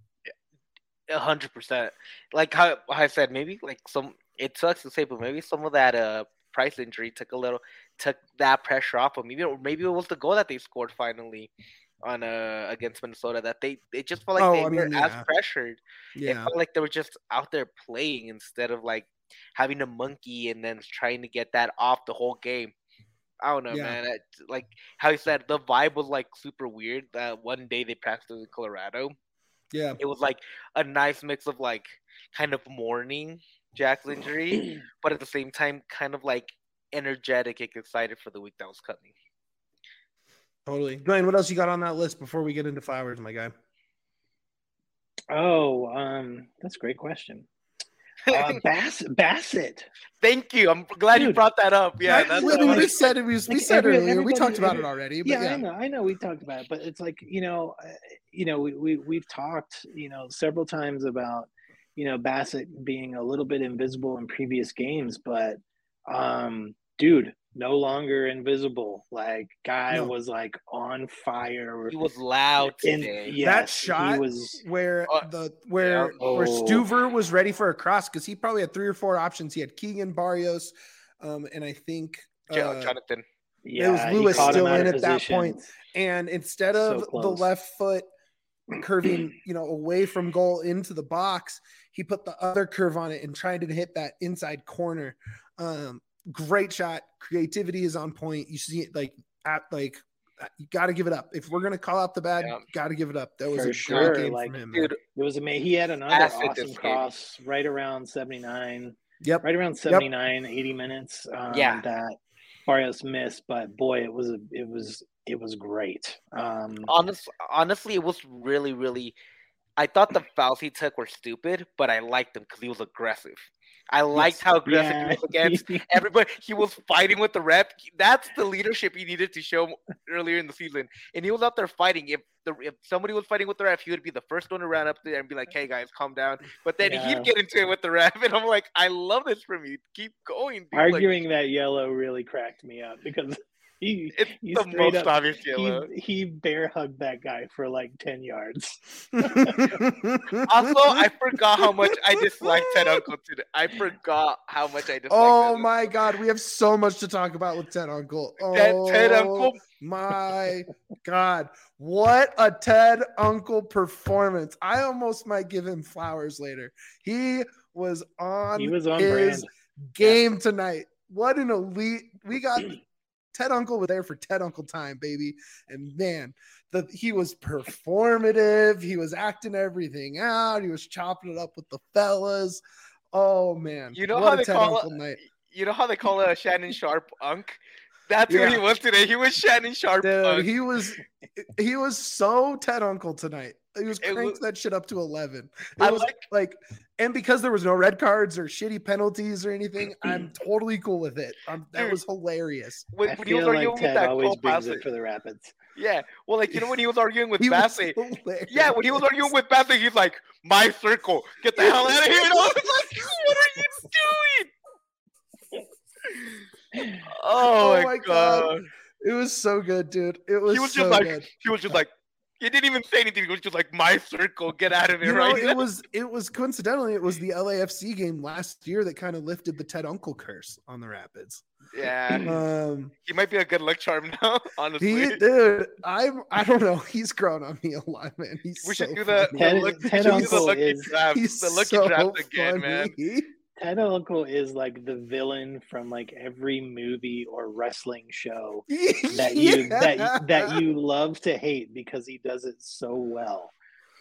100%. Like how I said, maybe like it sucks to say, but maybe some of that Price injury took that pressure off of maybe it was the goal that they scored finally on against Minnesota, that it just felt like they weren't as pressured. It felt like they were just out there playing instead of like having a monkey and then trying to get that off the whole game. I don't know, man. Like how you said, the vibe was like super weird. That one day they practiced in Colorado. Yeah, it was like a nice mix of like kind of mourning Jack's injury, but at the same time, kind of like energetic and excited for the week that was coming. Totally. Dwayne, what else you got on that list before we get into Flowers, my guy? Oh, that's a great question. Bassett. Thank you. I'm glad you brought that up. Yeah, we said it. We said earlier. We talked about it already. But I know. We talked about it, but it's like we've talked several times about Bassett being a little bit invisible in previous games, but dude, no longer invisible. Like guy No. was like on fire. He was loud And today. yes, That shot he was. where yeah. Stuver was ready for a cross because he probably had 3 or 4 options. He had Keegan, Barrios, and I think Jonathan. Yeah, it was Lewis he caught him still out in of at that position. point. And instead of So the close. left foot curving, away from goal into the box, he put the other curve on it and tried to hit that inside corner. Great shot. Creativity is on point. You see it you got to give it up. If we're going to call out the bad, got to give it up. That was For a sure. great game Like, from him. Dude, it was amazing. He had another Acid awesome this cross right around 79. Yep. Right around 79, 80 minutes. That Barrios missed, but boy, it was great. Honestly, it was really, really. I thought the fouls he took were stupid, but I liked him because he was aggressive. I liked how aggressive he was against everybody. He was fighting with the ref. That's the leadership he needed to show earlier in the season. And he was out there fighting. If somebody was fighting with the ref, he would be the first one to run up there and be like, "Hey guys, calm down." But then he'd get into it with the ref, and I'm like, "I love this from you. Keep going." Dude. Arguing that yellow really cracked me up because it's the most obvious yellow. He bear hugged that guy for like 10 yards. Also, I forgot how much I disliked Ted Uncle today. I forgot how much I disliked. Oh my God, we have so much to talk about with Ted Uncle. Ted Uncle. My God, what a Ted Uncle performance! I almost might give him flowers later. He was on his brand. Game tonight. What an elite! We got Ted Uncle was there for Ted Uncle time, baby. And man, he was performative. He was acting everything out. He was chopping it up with the fellas. Oh man, you know how they call it? You know how they call it a Shannon Sharp Unk? That's what he was today. He was Shannon Sharp. Dude, he was so Ted Uncle tonight. He was cranked that shit up to 11. It was like, and because there was no red cards or shitty penalties or anything, I'm totally cool with it. That was hilarious. When he was arguing with that always brings it for the Rapids. Yeah, well, like when he was arguing with Bassett. Yeah, when he was arguing with Bassett, he's like, "My circle, get the hell out of here!" And I was like, "What are you doing?" Oh my god. It was so good, dude. It was so just like, good. He was just like, he didn't even say anything. He was just like, "My circle, get out of here!" It was coincidentally, it was the LAFC game last year that kind of lifted the Ted Uncle curse on the Rapids. Yeah. He might be a good luck charm now, honestly. Dude, I don't know. He's grown on me a lot, man. We should do the lucky draft again, man. Ted Uncle is like the villain from like every movie or wrestling show that you love to hate because he does it so well.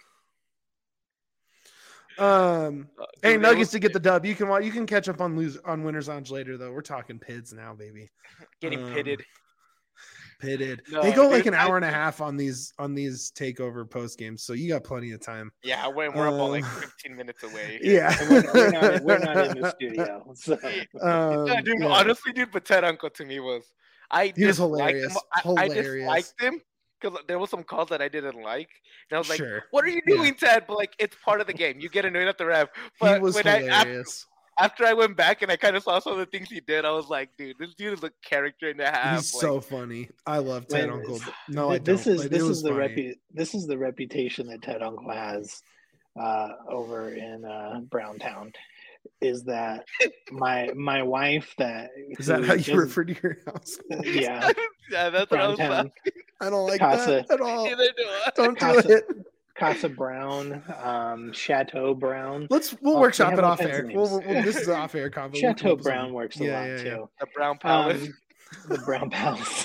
Hey, Nuggets to get the dub. You can catch up on Winners Lounge later though. We're talking PIDs now, baby. Getting pitted. No, they go like an hour and a half on these takeover post games, so you got plenty of time. Yeah, we're about like 15 minutes away. Yeah, we're not in the studio. So. Dude, honestly, but Ted Uncle to me was he was hilarious. I disliked him because there was some calls that I didn't like, and I was like, "What are you doing, Ted?" But like, it's part of the game. You get annoyed at the ref. But he was hilarious. After I went back and I kind of saw some of the things he did, I was like, dude, this dude is a character and a half. He's so funny. I love Ted Uncle. No, I don't. This is the reputation that Ted Uncle has over in Browntown. Is that my wife? Is that how you refer to your house? Yeah, yeah, that's what I was like. I don't like that at all. Neither do I. Don't do it. Casa Brown, Chateau Brown. We'll workshop it off air. This is an off air convo. Chateau Brown works a lot too. The Brown Palace. The Brown Palace.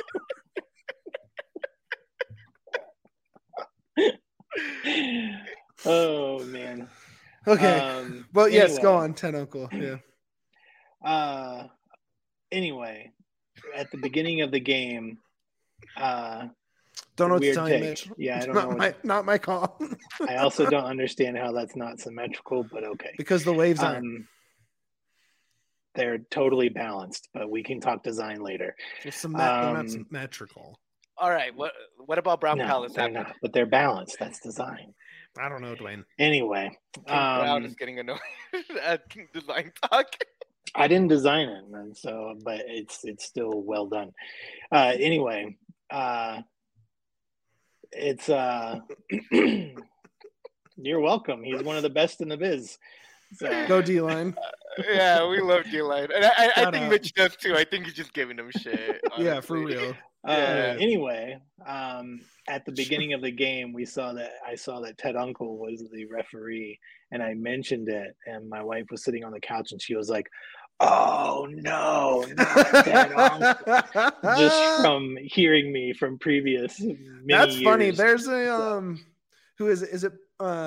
Oh man. Okay. But yes, go on, Ted Uncle. Yeah. Anyway, at the beginning of the game, don't know what to tell you, Mitch. Yeah, I don't know. Not my call. I also don't understand how that's not symmetrical, but okay. Because the waves aren't. They're totally balanced, but we can talk design later. They're not symmetrical. All right. What about Brown Palace? They're not, but they're balanced. That's design. I don't know, Dwayne. Anyway, Brown is getting annoyed at design talk. I didn't design it, and so but it's still well done. Anyway, it's you're welcome. He's one of the best in the biz. So Go D-line. Yeah, we love D-line. And I Shout think out. Mitch does too. I think he's just giving him shit. Yeah, for honestly. real. Yeah. Anyway, at the beginning of the game, I saw that Ted Uncle was the referee, and I mentioned it, and my wife was sitting on the couch, and she was like, "Oh no, not Ted Uncle!" Just from hearing me from previous many That's funny. years. There's a who is it? Is it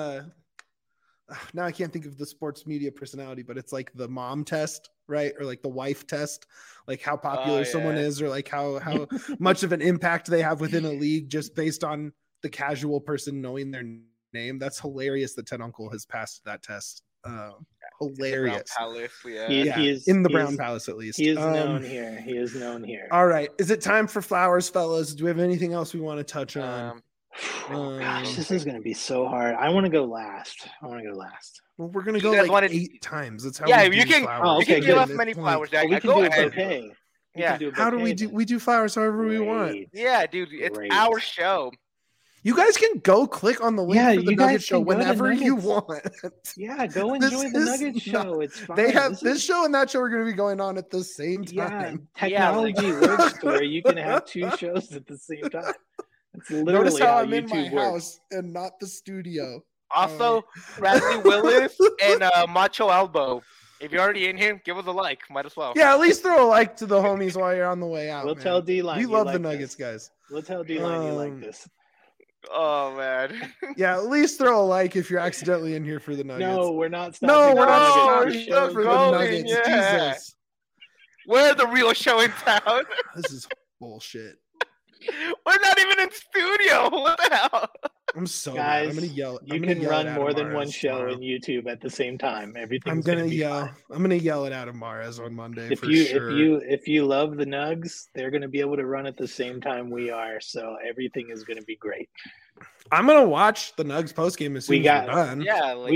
now I can't think of the sports media personality, but it's like the mom test, right? Or like the wife test, like how popular someone is, or like how much of an impact they have within a league just based on the casual person knowing their name. That's hilarious that Ted Uncle has passed that test. Hilarious. Palace, yeah. He is in the Brown Palace at least. He is known here. He is known here. All right. Is it time for flowers, fellas? Do we have anything else we want to touch on? Gosh, this is going to be so hard. I want to go last. Well, we're gonna go like 8 times. That's how. Yeah, we you do can. Flowers. You can Okay, give good. us many flowers, Jack. We can Go do a ahead. bouquet. Yeah. How do we do? We do flowers however we want. Yeah, dude, it's Great. our show. You guys can go click on the link Yeah, for the you guys Nugget Show can go to whenever you Nuggets. want. Yeah, go This enjoy the is Nugget not- show. It's fine. They have this show and that show are going to be going on at the same Yeah, time. technology works to where you can have 2 shows at the same time. That's literally Notice how I'm in YouTube my works. house and not the studio. Also, Bradley Willis and Macho Elbow. If you're already in here, give us a like. Might as well. Yeah, at least throw a like to the homies while you're on the way out. We'll man. tell D-Line. We you love like the Nuggets, this. guys. We'll tell D-Line you like this. Oh man. Yeah, at least throw a like if you're accidentally in here for the Nuggets. No, we're not No, stopping. we're the not No, Nuggets. stopping we're The show's for the going, Nuggets. yeah. Jesus, We're the real show in town. this is bullshit. We're not even in studio. What the hell? I'm so Guys, mad. I'm gonna yell. You I'm gonna can yell run it out more of than one Mahrez show tomorrow. in YouTube at the same time. Everything's I'm gonna be yell. fine. I'm gonna yell it out of Mahrez on Monday If for you sure. if you love the Nugs, they're going to be able to run at the same time we are. So everything is going to be great. I'm gonna watch the Nugs post game as soon as we're done. Yeah, like,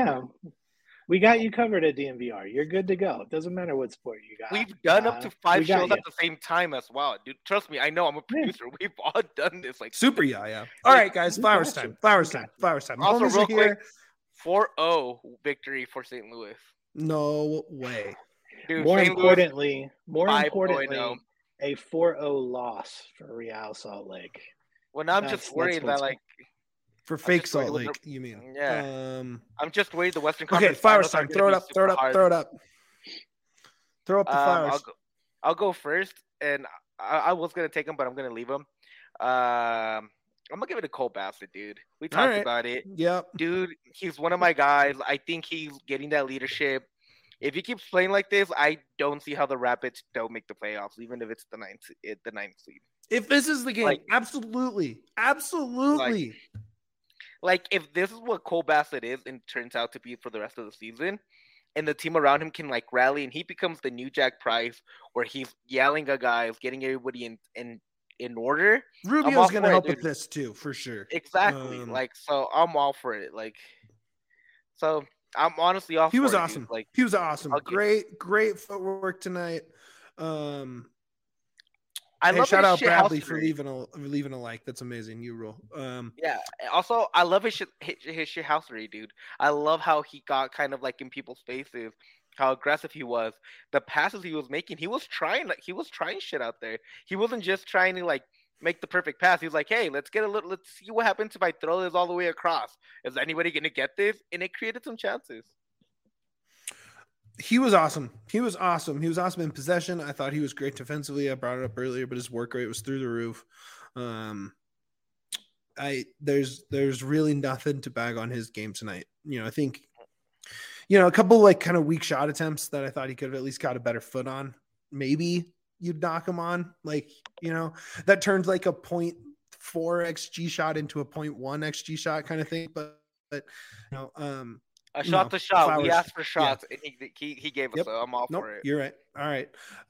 We got you covered at DNVR. You're good to go. It doesn't matter what sport you got. we've done up to 5 we got shows you. at the same time as well, dude. Trust me, I know. I'm a producer. We've all done this. Like Super yeah. All right, guys. Flowers time. Flowers time. Flowers time. Also, Homies real are here. quick, 4-0 victory for St. Louis. No way. Dude, More St. importantly, 5-0. a 4-0 loss for Real Salt Lake. Well, now I'm That's- just worried that's that what's- like For fake just worried Salt with Lake, you mean? Yeah. I'm just worried the Western Conference. Okay, flowers Finals are time. gonna Throw it be up. Throw it super up. hard. Throw it up. Throw up the flowers. I'll go first, and I was gonna take him, but I'm gonna leave him. I'm gonna give it to Cole Bassett, dude. We talked right. about it, Yep. dude. He's one of my guys. I think he's getting that leadership. If he keeps playing like this, I don't see how the Rapids don't make the playoffs, even if it's the ninth seed. If this is the game, Like- absolutely. Like if this is what Cole Bassett is and turns out to be for the rest of the season, and the team around him can like rally, and he becomes the new Jack Price, where he's yelling at guys, getting everybody in order. I'm all Rubio's gonna for it, help dude. with this too, for sure. Exactly. So I'm all for it. So I'm honestly all He for was it, awesome. dude. Like He was awesome. I'll give- Great footwork tonight. I Hey, love shout his out shit Bradley housery. for leaving a like. That's amazing. You rule. Yeah. Also, I love his shit housery, dude. I love how he got kind of like in people's faces, how aggressive he was. The passes he was making, he was trying shit out there. He wasn't just trying to like make the perfect pass. He was like, hey, let's see what happens if I throw this all the way across. Is anybody gonna get this? And it created some chances. He was awesome. He was awesome in possession. I thought he was great defensively. I brought it up earlier, but his work rate was through the roof. There's really nothing to bag on his game tonight. I think, a couple like kind of weak shot attempts that I thought he could have at least got a better foot on. Maybe you'd knock him on, that turns like a 0.4 XG shot into a 0.1 XG shot kind of thing. But A shot to shot. Flowers. We asked for shots, and he gave us. Yep. So I'm all for it. You're right. All right.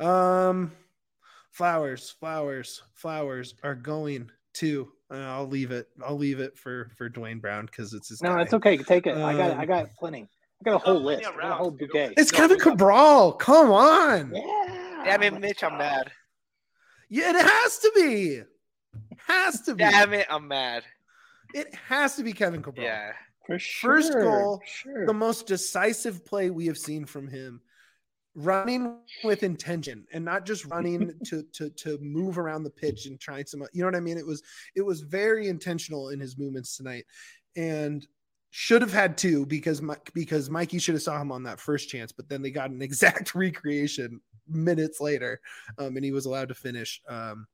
Flowers are going to. I'll leave it for Dwayne Brown because it's his. No, guy. it's okay. Take it. I got plenty. I got a whole list. I got a whole bouquet. It's Kevin Cabral. Come on. Yeah. Damn it, Mitch, I'm mad. Yeah, it has to be. Has to be. Damn it, I'm mad. It has to be Kevin Cabral. Yeah. For sure. First goal, Sure. the most decisive play we have seen from him. Running with intention and not just running to move around the pitch and trying some, you know what I mean? It was very intentional in his movements tonight, and should have had two because Mikey should have saw him on that first chance, but then they got an exact recreation minutes later, and he was allowed to finish.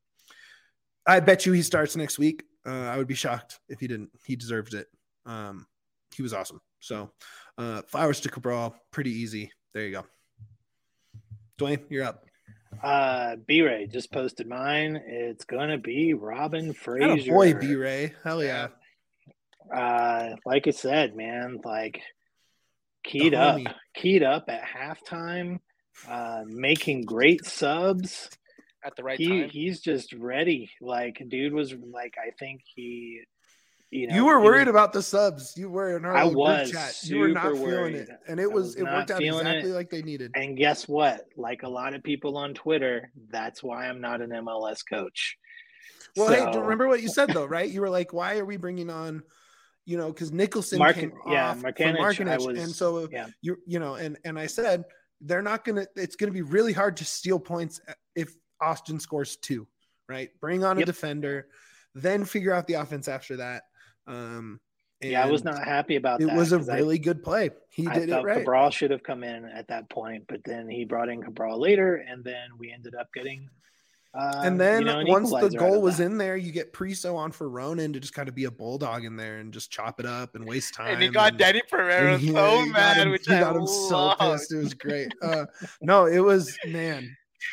I bet you he starts next week. I would be shocked if he didn't. He deserved it. He was awesome. So flowers to Cabral, pretty easy. There you go. Dwayne, you're up. B-Ray just posted mine. It's gonna be Robin Fraser. Boy, B-Ray. Hell yeah. Like I said, man, like keyed up at halftime, making great subs at the right time. He's just ready. Like, dude was like, I think he, you were worried about the subs. You were in our group chat. You were not feeling worried. it, and it worked out exactly like they needed. And guess what? Like a lot of people on Twitter, that's why I'm not an MLS coach. Well, hey, remember what you said though, right? You were like, "Why are we bringing on?" You know, because Nicholson came off from Markinich, and so and I said they're not gonna. It's gonna be really hard to steal points if Austin scores 2, right? Bring on a defender, then figure out the offense after that. I was not happy about that. It was a really good play. He did it right. Cabral should have come in at that point, but then he brought in Cabral later, and then we ended up getting. And then once the goal was in there, you get Priso on for Ronan to just kind of be a bulldog in there and just chop it up and waste time. And he got Danny Pereira so mad, which I got him so pissed. It was great. No, it was man.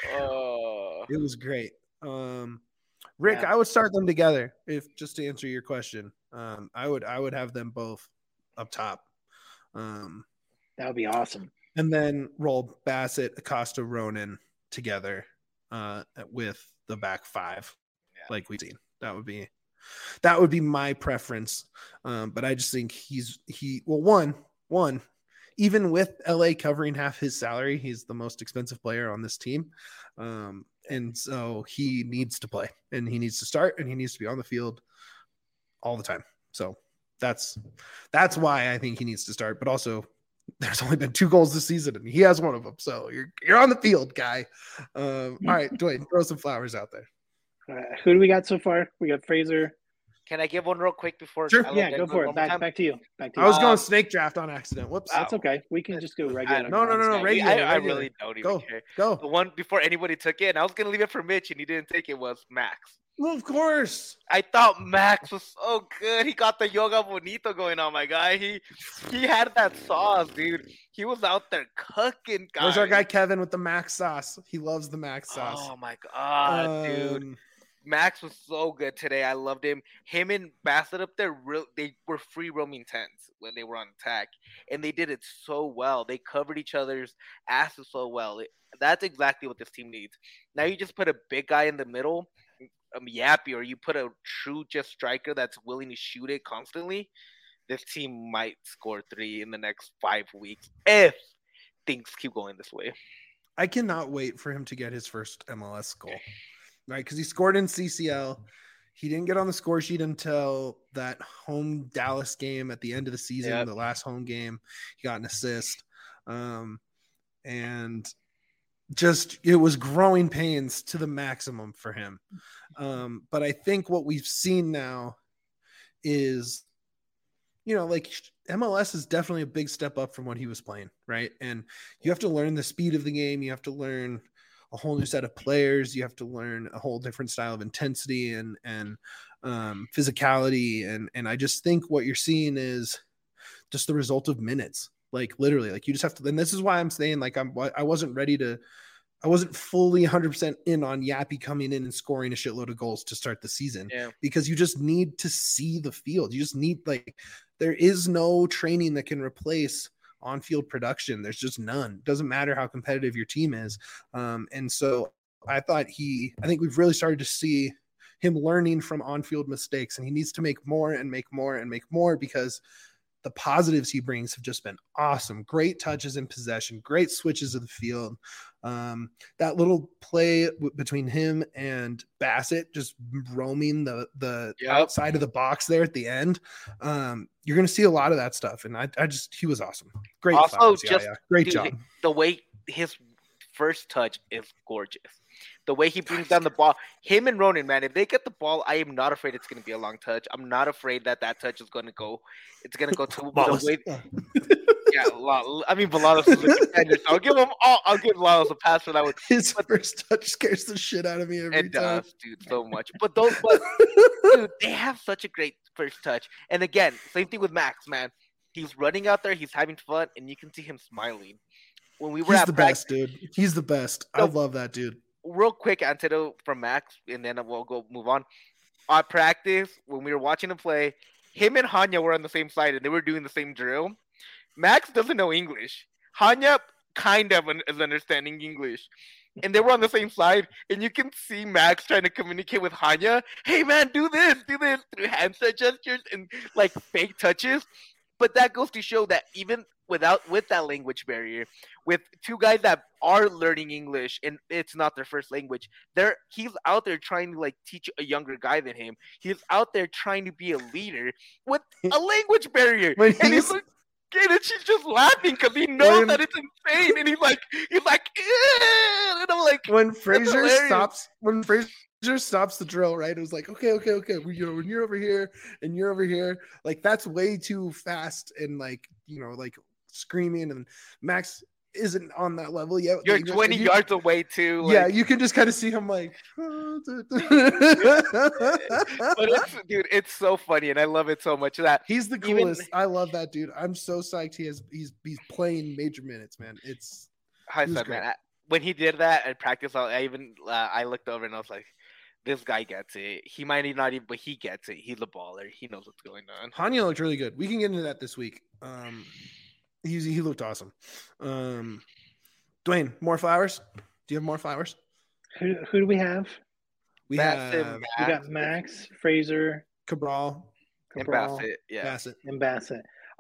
It was great. Rick, I would start them together just to answer your question. I would have them both up top. That would be awesome. And then roll Bassett, Acosta, Ronan together with the back 5, like we've seen. That would be my preference. But I just think one, even with LA covering half his salary, he's the most expensive player on this team. And so he needs to play, and he needs to start, and he needs to be on the field all the time. So that's why I think he needs to start. But also, there's only been 2 goals this season, and he has one of them. So you're on the field, guy. All right, Dwayne, throw some flowers out there. Who do we got so far? We got Fraser. Can I give one real quick before? Sure. Go for it. Back to you. I was going snake draft on accident. Whoops. That's okay. We can just go regular. No. Regular. I really don't even care. Go. The one before anybody took it, and I was going to leave it for Mitch, and he didn't take it, was Max. Well, of course. I thought Max was so good. He got the yoga bonito going on, my guy. He had that sauce, dude. He was out there cooking, guys. Where's our guy Kevin with the Max sauce? He loves the Max sauce. Oh, my God, dude. Max was so good today. I loved him. Him and Bassett up there, they were free roaming 10s when they were on attack, and they did it so well. They covered each other's asses so well. That's exactly what this team needs. Now you just put a big guy in the middle, Yappy, or you put a true just striker that's willing to shoot it constantly. This team might score 3 in the next 5 weeks if things keep going this way. I cannot wait for him to get his first MLS goal. Right, because he scored in CCL. He didn't get on the score sheet until that home Dallas game at the end of the season, the last home game. He got an assist. And just it was growing pains to the maximum for him. But I think what we've seen now is, like MLS is definitely a big step up from what he was playing, right? And you have to learn the speed of the game. You have to learn a whole new set of players. You have to learn a whole different style of intensity and physicality. And I just think what you're seeing is just the result of minutes. Like literally, like you just have to, and this is why I'm saying like I wasn't fully 100% in on Yappy coming in and scoring a shitload of goals to start the season, because you just need to see the field. You just need, there is no training that can replace on-field production. There's just none. Doesn't matter how competitive your team is. And so I think we've really started to see him learning from on-field mistakes, and he needs to make more and make more and make more, because the positives he brings have just been awesome. Great touches in possession, great switches of the field. That little play between him and Bassett, just roaming the outside of the box there at the end. You're going to see a lot of that stuff. And he was awesome. Great. Also, flowers. Great dude, job. The way his first touch is gorgeous. The way he brings down the ball, him and Ronan, man, if they get the ball, I am not afraid it's going to be a long touch. I'm not afraid that touch is going to go. It's going to go to the way. Yeah, I mean, Balalos is a defender, so I'll give Balalos a pass for that one. His first touch scares the shit out of me every time. It does, dude, so much. But dude, they have such a great first touch. And again, same thing with Max, man. He's running out there, he's having fun, and you can see him smiling. When we were he's the best, dude. He's the best. I love that dude. Real quick antidote from Max, and then we'll move on. At practice, when we were watching him play, him and Hanya were on the same side, and they were doing the same drill. Max doesn't know English. Hanya kind of is understanding English. And they were on the same side, and you can see Max trying to communicate with Hanya. Hey, man, do this, through hand gestures and, like, fake touches. But that goes to show that even with that language barrier, with two guys that are learning English and it's not their first language, he's out there trying to, like, teach a younger guy than him. He's out there trying to be a leader with a language barrier. And he's like, and she's just laughing because he knows that it's insane, and he's like, and I'm like, when Fraser stops the drill, right? It was like, okay. When you're over here and you're over here, like, that's way too fast, and like screaming, and Max isn't on that level yet. You're 20 yards away too. Like, yeah, you can just kind of see him like. But it's so funny, and I love it so much. That he's the coolest. I love that dude. I'm so psyched. He's playing major minutes, man. It's man. When he did that at practice, I looked over and I was like, this guy gets it. He might not even, but he gets it. He's a baller. He knows what's going on. Hanya looked really good. We can get into that this week. He looked awesome. Dwayne, more flowers? Do you have more flowers? Who do we have? We got Max, Fraser, Cabral, and Bassett. Yeah, Bassett.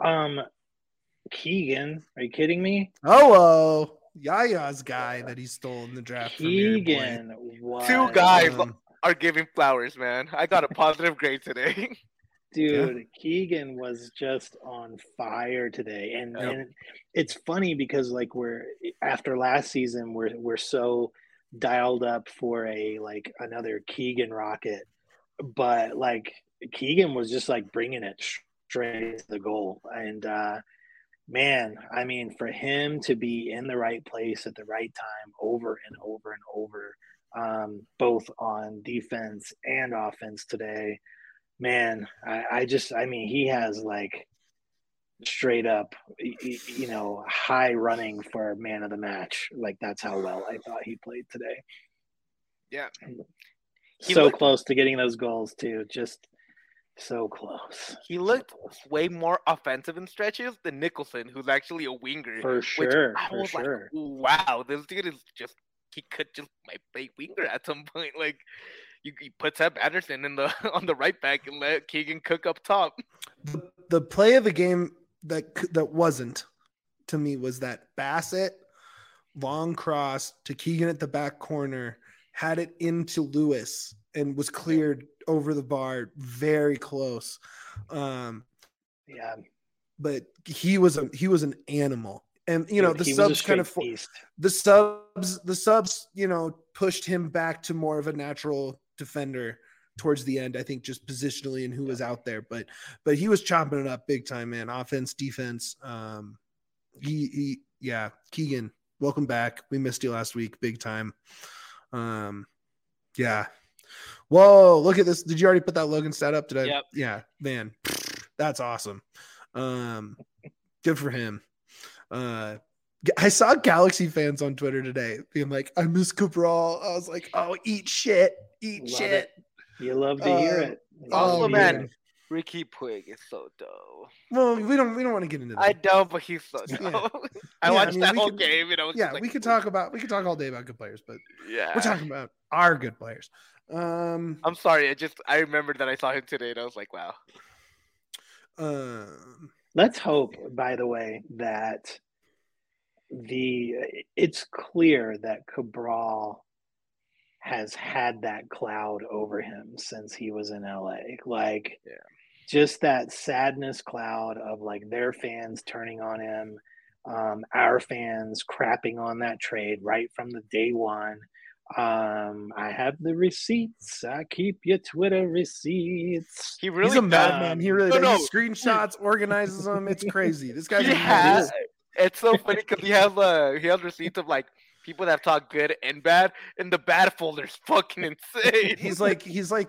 Keegan, are you kidding me? Oh, Yaya's guy that he stole in the draft. Keegan, what? Two guys are giving flowers, man. I got a positive grade today. Dude, yeah. Keegan was just on fire today, and it's funny because, like, after last season, we're so dialed up for another Keegan rocket, but like Keegan was just like bringing it straight to the goal, and man, I mean, for him to be in the right place at the right time over and over and over, both on defense and offense today. Man, I mean, he has like straight up, high running for man of the match. Like, that's how well I thought he played today. Yeah. So close to getting those goals too. Just so close. He looked way more offensive in stretches than Nicholson, who's actually a winger. For sure. I was like, wow, this dude he could just might play winger at some point. Like, you put Seb Anderson on the right back and let Keegan cook up top. The play of the game that wasn't, to me, was that Bassett long cross to Keegan at the back corner, had it into Lewis and was cleared over the bar, very close. Yeah, but he was an animal. And the subs kind of beast. the subs pushed him back to more of a natural defender towards the end, I think, just positionally and who was out there, but he was chopping it up big time, man. Offense, defense. Keegan, welcome back. We missed you last week, big time. Yeah. Whoa, look at this. Did you already put that Logan stat up? Did I? Yep. Yeah, man, that's awesome. Good for him. I saw Galaxy fans on Twitter today being like, I miss Cabral. I was like, oh, eat shit. Love it. You love to hear it. Also, man, Ricky Puig is so dope. Well, we don't want to get into that. I don't, but he's so dope. Yeah. I watched that whole game, and I was we could talk all day about good players, but yeah, we're talking about our good players. I'm sorry, I remembered that I saw him today, and I was like, wow. Let's hope, by the way, that it's clear that Cabral has had that cloud over him since he was in LA. Like, Yeah. just that sadness cloud of like their fans turning on him, our fans crapping on that trade right from the day one. I have the receipts. I keep your Twitter receipts. He really He's a does. madman. He really does. No. He screenshots, organizes them. It's crazy. This guy's He a has. madman. It's so funny because he has receipts of like people that have talked good and bad, and the bad folder's fucking insane. He's like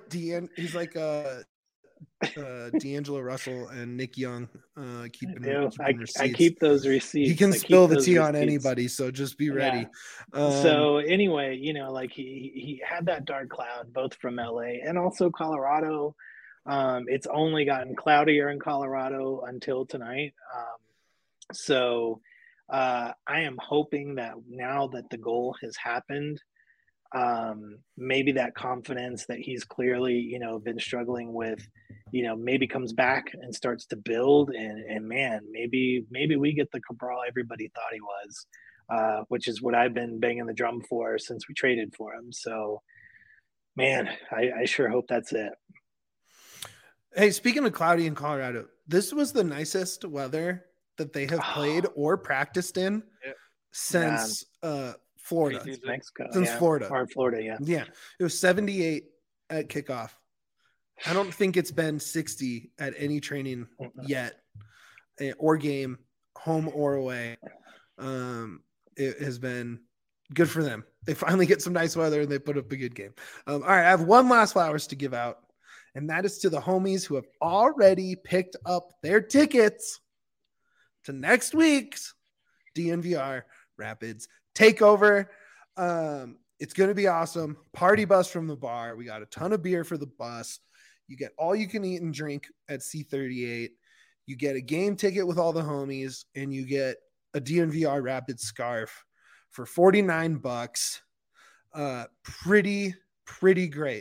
D'Angelo Russell and Nick Young keeping receipts. I keep those receipts. He can spill the tea on anybody, so just be ready. So anyway, like he had that dark cloud both from LA and also Colorado. It's only gotten cloudier in Colorado until tonight. So I am hoping that now that the goal has happened, maybe that confidence that he's clearly, been struggling with, maybe comes back and starts to build. And man, maybe we get the Cabral everybody thought he was, which is what I've been banging the drum for since we traded for him. So, man, I sure hope that's it. Hey, speaking of cloudy in Colorado, this was the nicest weather that they have played or practiced in since Florida. Mexico. Since Florida. Or Florida, yeah. Yeah. It was 78 at kickoff. I don't think it's been 60 at any training yet or game, home or away. It has been good for them. They finally get some nice weather and they put up a good game. All right, I have one last flowers to give out, and that is to the homies who have already picked up their tickets to next week's DNVR Rapids Takeover. It's going to be awesome. Party bus from the bar. We got a ton of beer for the bus. You get all you can eat and drink at C38. You get a game ticket with all the homies, and you get a DNVR Rapids scarf for $49. Pretty great.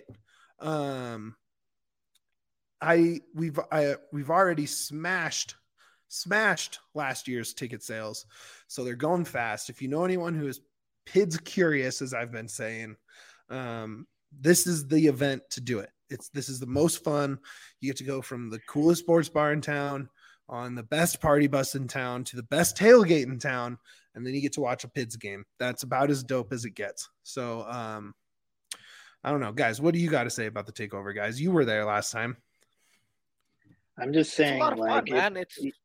We've already smashed last year's ticket sales, so they're going fast. If you know anyone who is PIDS curious, as I've been saying, this is the event to do it. This is the most fun. You get to go from the coolest sports bar in town on the best party bus in town to the best tailgate in town, and then you get to watch a PIDS game. That's about as dope as it gets. So I don't know, guys, what do you got to say about the takeover, guys? You were there last time. I'm just saying, it's a lot of fun, man.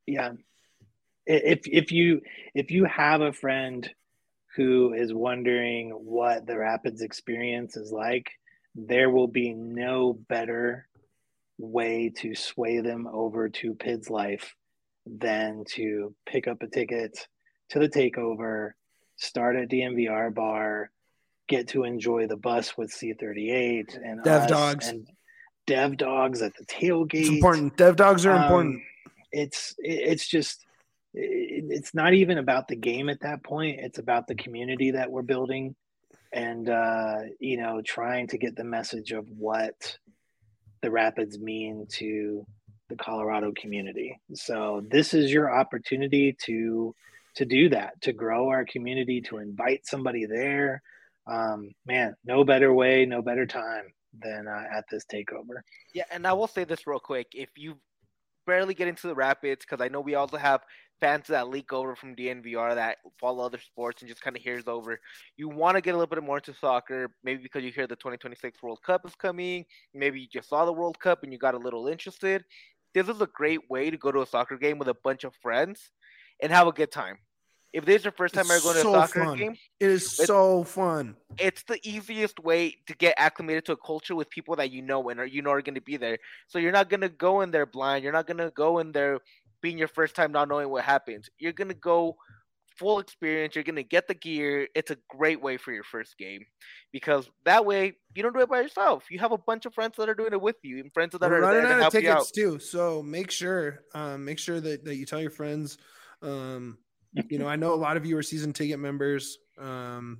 If you have a friend who is wondering what the Rapids experience is like, there will be no better way to sway them over to PIDS life than to pick up a ticket to the takeover, start at DNVR bar, get to enjoy the bus with C38 and Dev Dogs and Dev Dogs at the tailgate. It's important. Dev Dogs are important. It's just, it's not even about the game at that point. It's about the community that we're building and, trying to get the message of what the Rapids mean to the Colorado community. So this is your opportunity to do that, to grow our community, to invite somebody there. Man, no better way, no better time than at this takeover. Yeah, and I will say this real quick. If you barely get into the Rapids, because I know we also have fans that leak over from DNVR that follow other sports and just kind of hears over. You want to get a little bit more into soccer, maybe because you hear the 2026 World Cup is coming. Maybe you just saw the World Cup and you got a little interested. This is a great way to go to a soccer game with a bunch of friends and have a good time. If this is your first time ever going to a soccer game, it is so fun. It's the easiest way to get acclimated to a culture with people that you know and are going to be there. So you're not going to go in there blind. You're not going to go in there being your first time not knowing what happens. You're going to go full experience. You're going to get the gear. It's a great way for your first game because that way you don't do it by yourself. You have a bunch of friends that are doing it with you and friends that are running there to out help of you out. tickets too. So make sure that you tell your friends. I know a lot of you are season ticket members. Damn,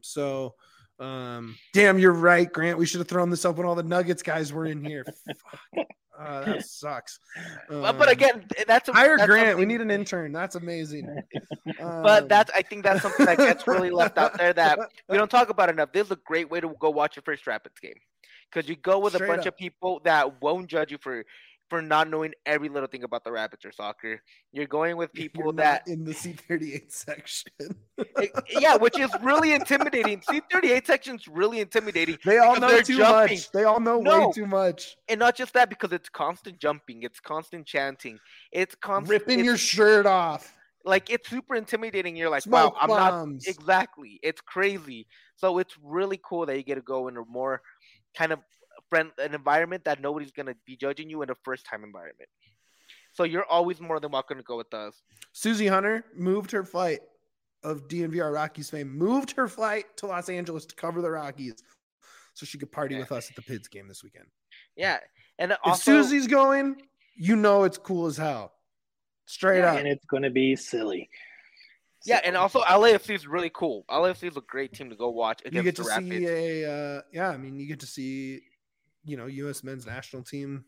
you're right, Grant. We should have thrown this up when all the Nuggets guys were in here. Fuck. That sucks. But again, that's hire that's Grant. We something- need an intern. That's amazing. But I think that's something that gets really left out there that we don't talk about enough. This is a great way to go watch your first Rapids game, because you go with Straight a bunch up. of people that won't judge you for not knowing every little thing about the Rapids or soccer. You're going with people You're that not in the C38 section. yeah, which is really intimidating. C38 section's really intimidating. They all because know they're too jumping. much. They all know way No. too much. And not just that, because it's constant jumping, it's constant chanting, it's constant Ripping your shirt off. like it's super intimidating. You're like, Smoke wow, I'm bombs. not exactly. It's crazy. So it's really cool that you get to go in a more kind of an environment that nobody's gonna be judging you in a first time environment. So you're always more than welcome to go with us. Susie Hunter moved her flight of DNVR Rockies fame, moved her flight to Los Angeles to cover the Rockies so she could party with us at the Pids game this weekend. Yeah, and If also Susie's going, you know it's cool as hell. Straight up. And it's going to be silly. yeah, and also LAFC is really cool. LAFC is a great team to go watch You against get the to Rapids. see you get to see, U.S. men's national team.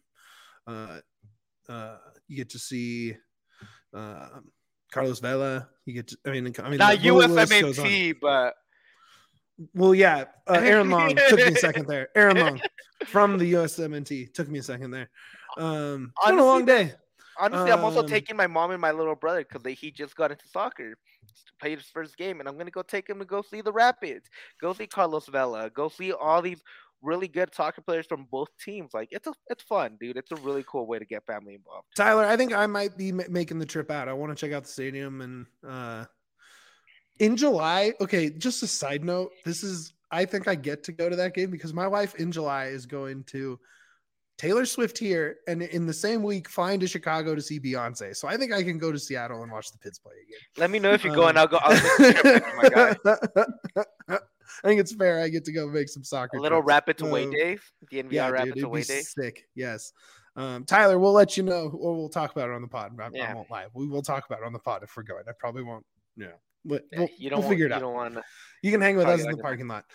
You get to see Carlos Vela. You get to, Not the list goes on. USMNT, but Well, yeah, Aaron Long took me a second there. Aaron Long from the USMNT took me a second there. It's been a long day. honestly, I'm also Um, taking my mom and my little brother because he just got into soccer, played his first game, and I'm gonna go take him to go see the Rapids, go see Carlos Vela, go see all these really good soccer players from both teams. Like it's fun, dude. It's a really cool way to get family involved. Tyler, I think I might be making the trip out. I want to check out the stadium and in July. Okay, just a side note. I think I get to go to that game because my wife in July is going to Taylor Swift here, and in the same week flying to Chicago to see Beyonce. So I think I can go to Seattle and watch the Pids play again. Let me know if you're going. I'll go. I'll take a trip with you, my guy. I think it's fair. I get to go make some soccer. A little trips. Rapids away days. DNVR Yeah, Rapids dude, away it'd be days. sick. Yes. Tyler, we'll let you know, or we'll talk about it on the pod. I Yeah. won't lie. We will talk about it on the pod if we're going. I probably won't. Yeah, but Yeah, we'll figure it out. You don't want to. You can hang with Probably us in not the gonna- parking lot.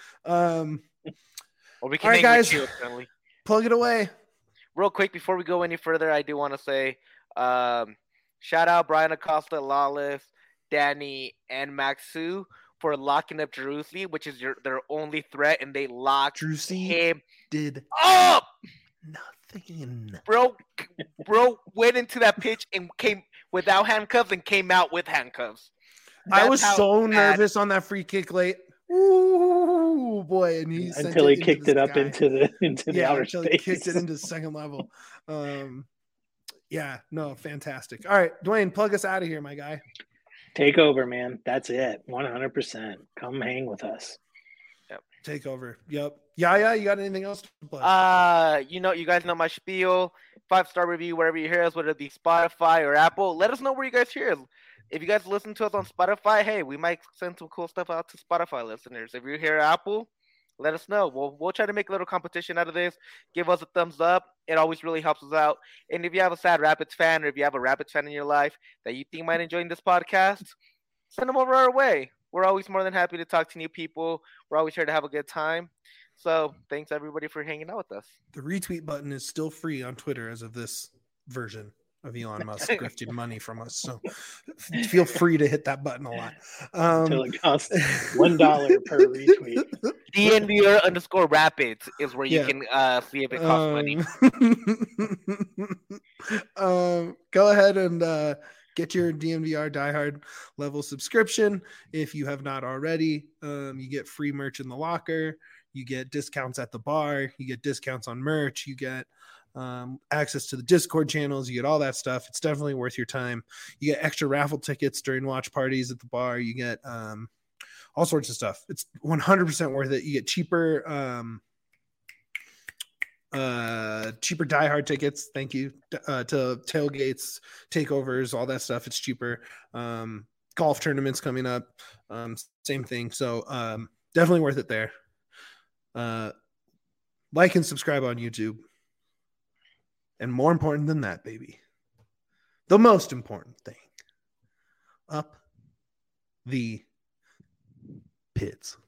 Or we can All right, hang guys. with you, apparently. Plug it away. Real quick before we go any further, I do want to say, shout out Brian Acosta, Lawless, Danny, and Maxu for locking up Jerusi, which is their only threat, and they locked Drusy him did up. nothing. Bro went into that pitch and came without handcuffs and came out with handcuffs. I That's was how so bad- nervous on that free kick late. Ooh, boy, and he sent Until he into kicked the it up sky. into the outer until space. he kicked it into second level. Fantastic. All right, Dwayne, plug us out of here, my guy. Take over, man. That's it. 100%. Come hang with us. Take over. Yep. Yeah. You got anything else to plug? You guys know my spiel. 5-star review wherever you hear us, whether it be Spotify or Apple. Let us know where you guys hear us. If you guys listen to us on Spotify, hey, we might send some cool stuff out to Spotify listeners. If you're here at Apple, let us know. We'll try to make a little competition out of this. Give us a thumbs up. It always really helps us out. And if you have a sad Rapids fan, or if you have a Rapids fan in your life that you think might enjoy this podcast, send them over our way. We're always more than happy to talk to new people. We're always here to have a good time. So thanks everybody for hanging out with us. The retweet button is still free on Twitter as of this version of Elon Musk grifting money from us. So feel free to hit that button a lot. Until it costs $1 per retweet. DNVR_Rapids is where you can see if it costs money. Go ahead and get your DNVR diehard level subscription if you have not already. You get free merch in the locker. You get discounts at the bar. You get discounts on merch. You get access to the Discord channels. You get all that stuff. It's definitely worth your time. You get extra raffle tickets during watch parties at the bar. You get all sorts of stuff. It's 100% worth it. You get cheaper diehard tickets. Thank you to tailgates, takeovers, all that stuff. It's cheaper. Golf tournaments coming up. Same thing. So definitely worth it there. Like and subscribe on YouTube. And more important than that, baby, the most important thing, up the Pids.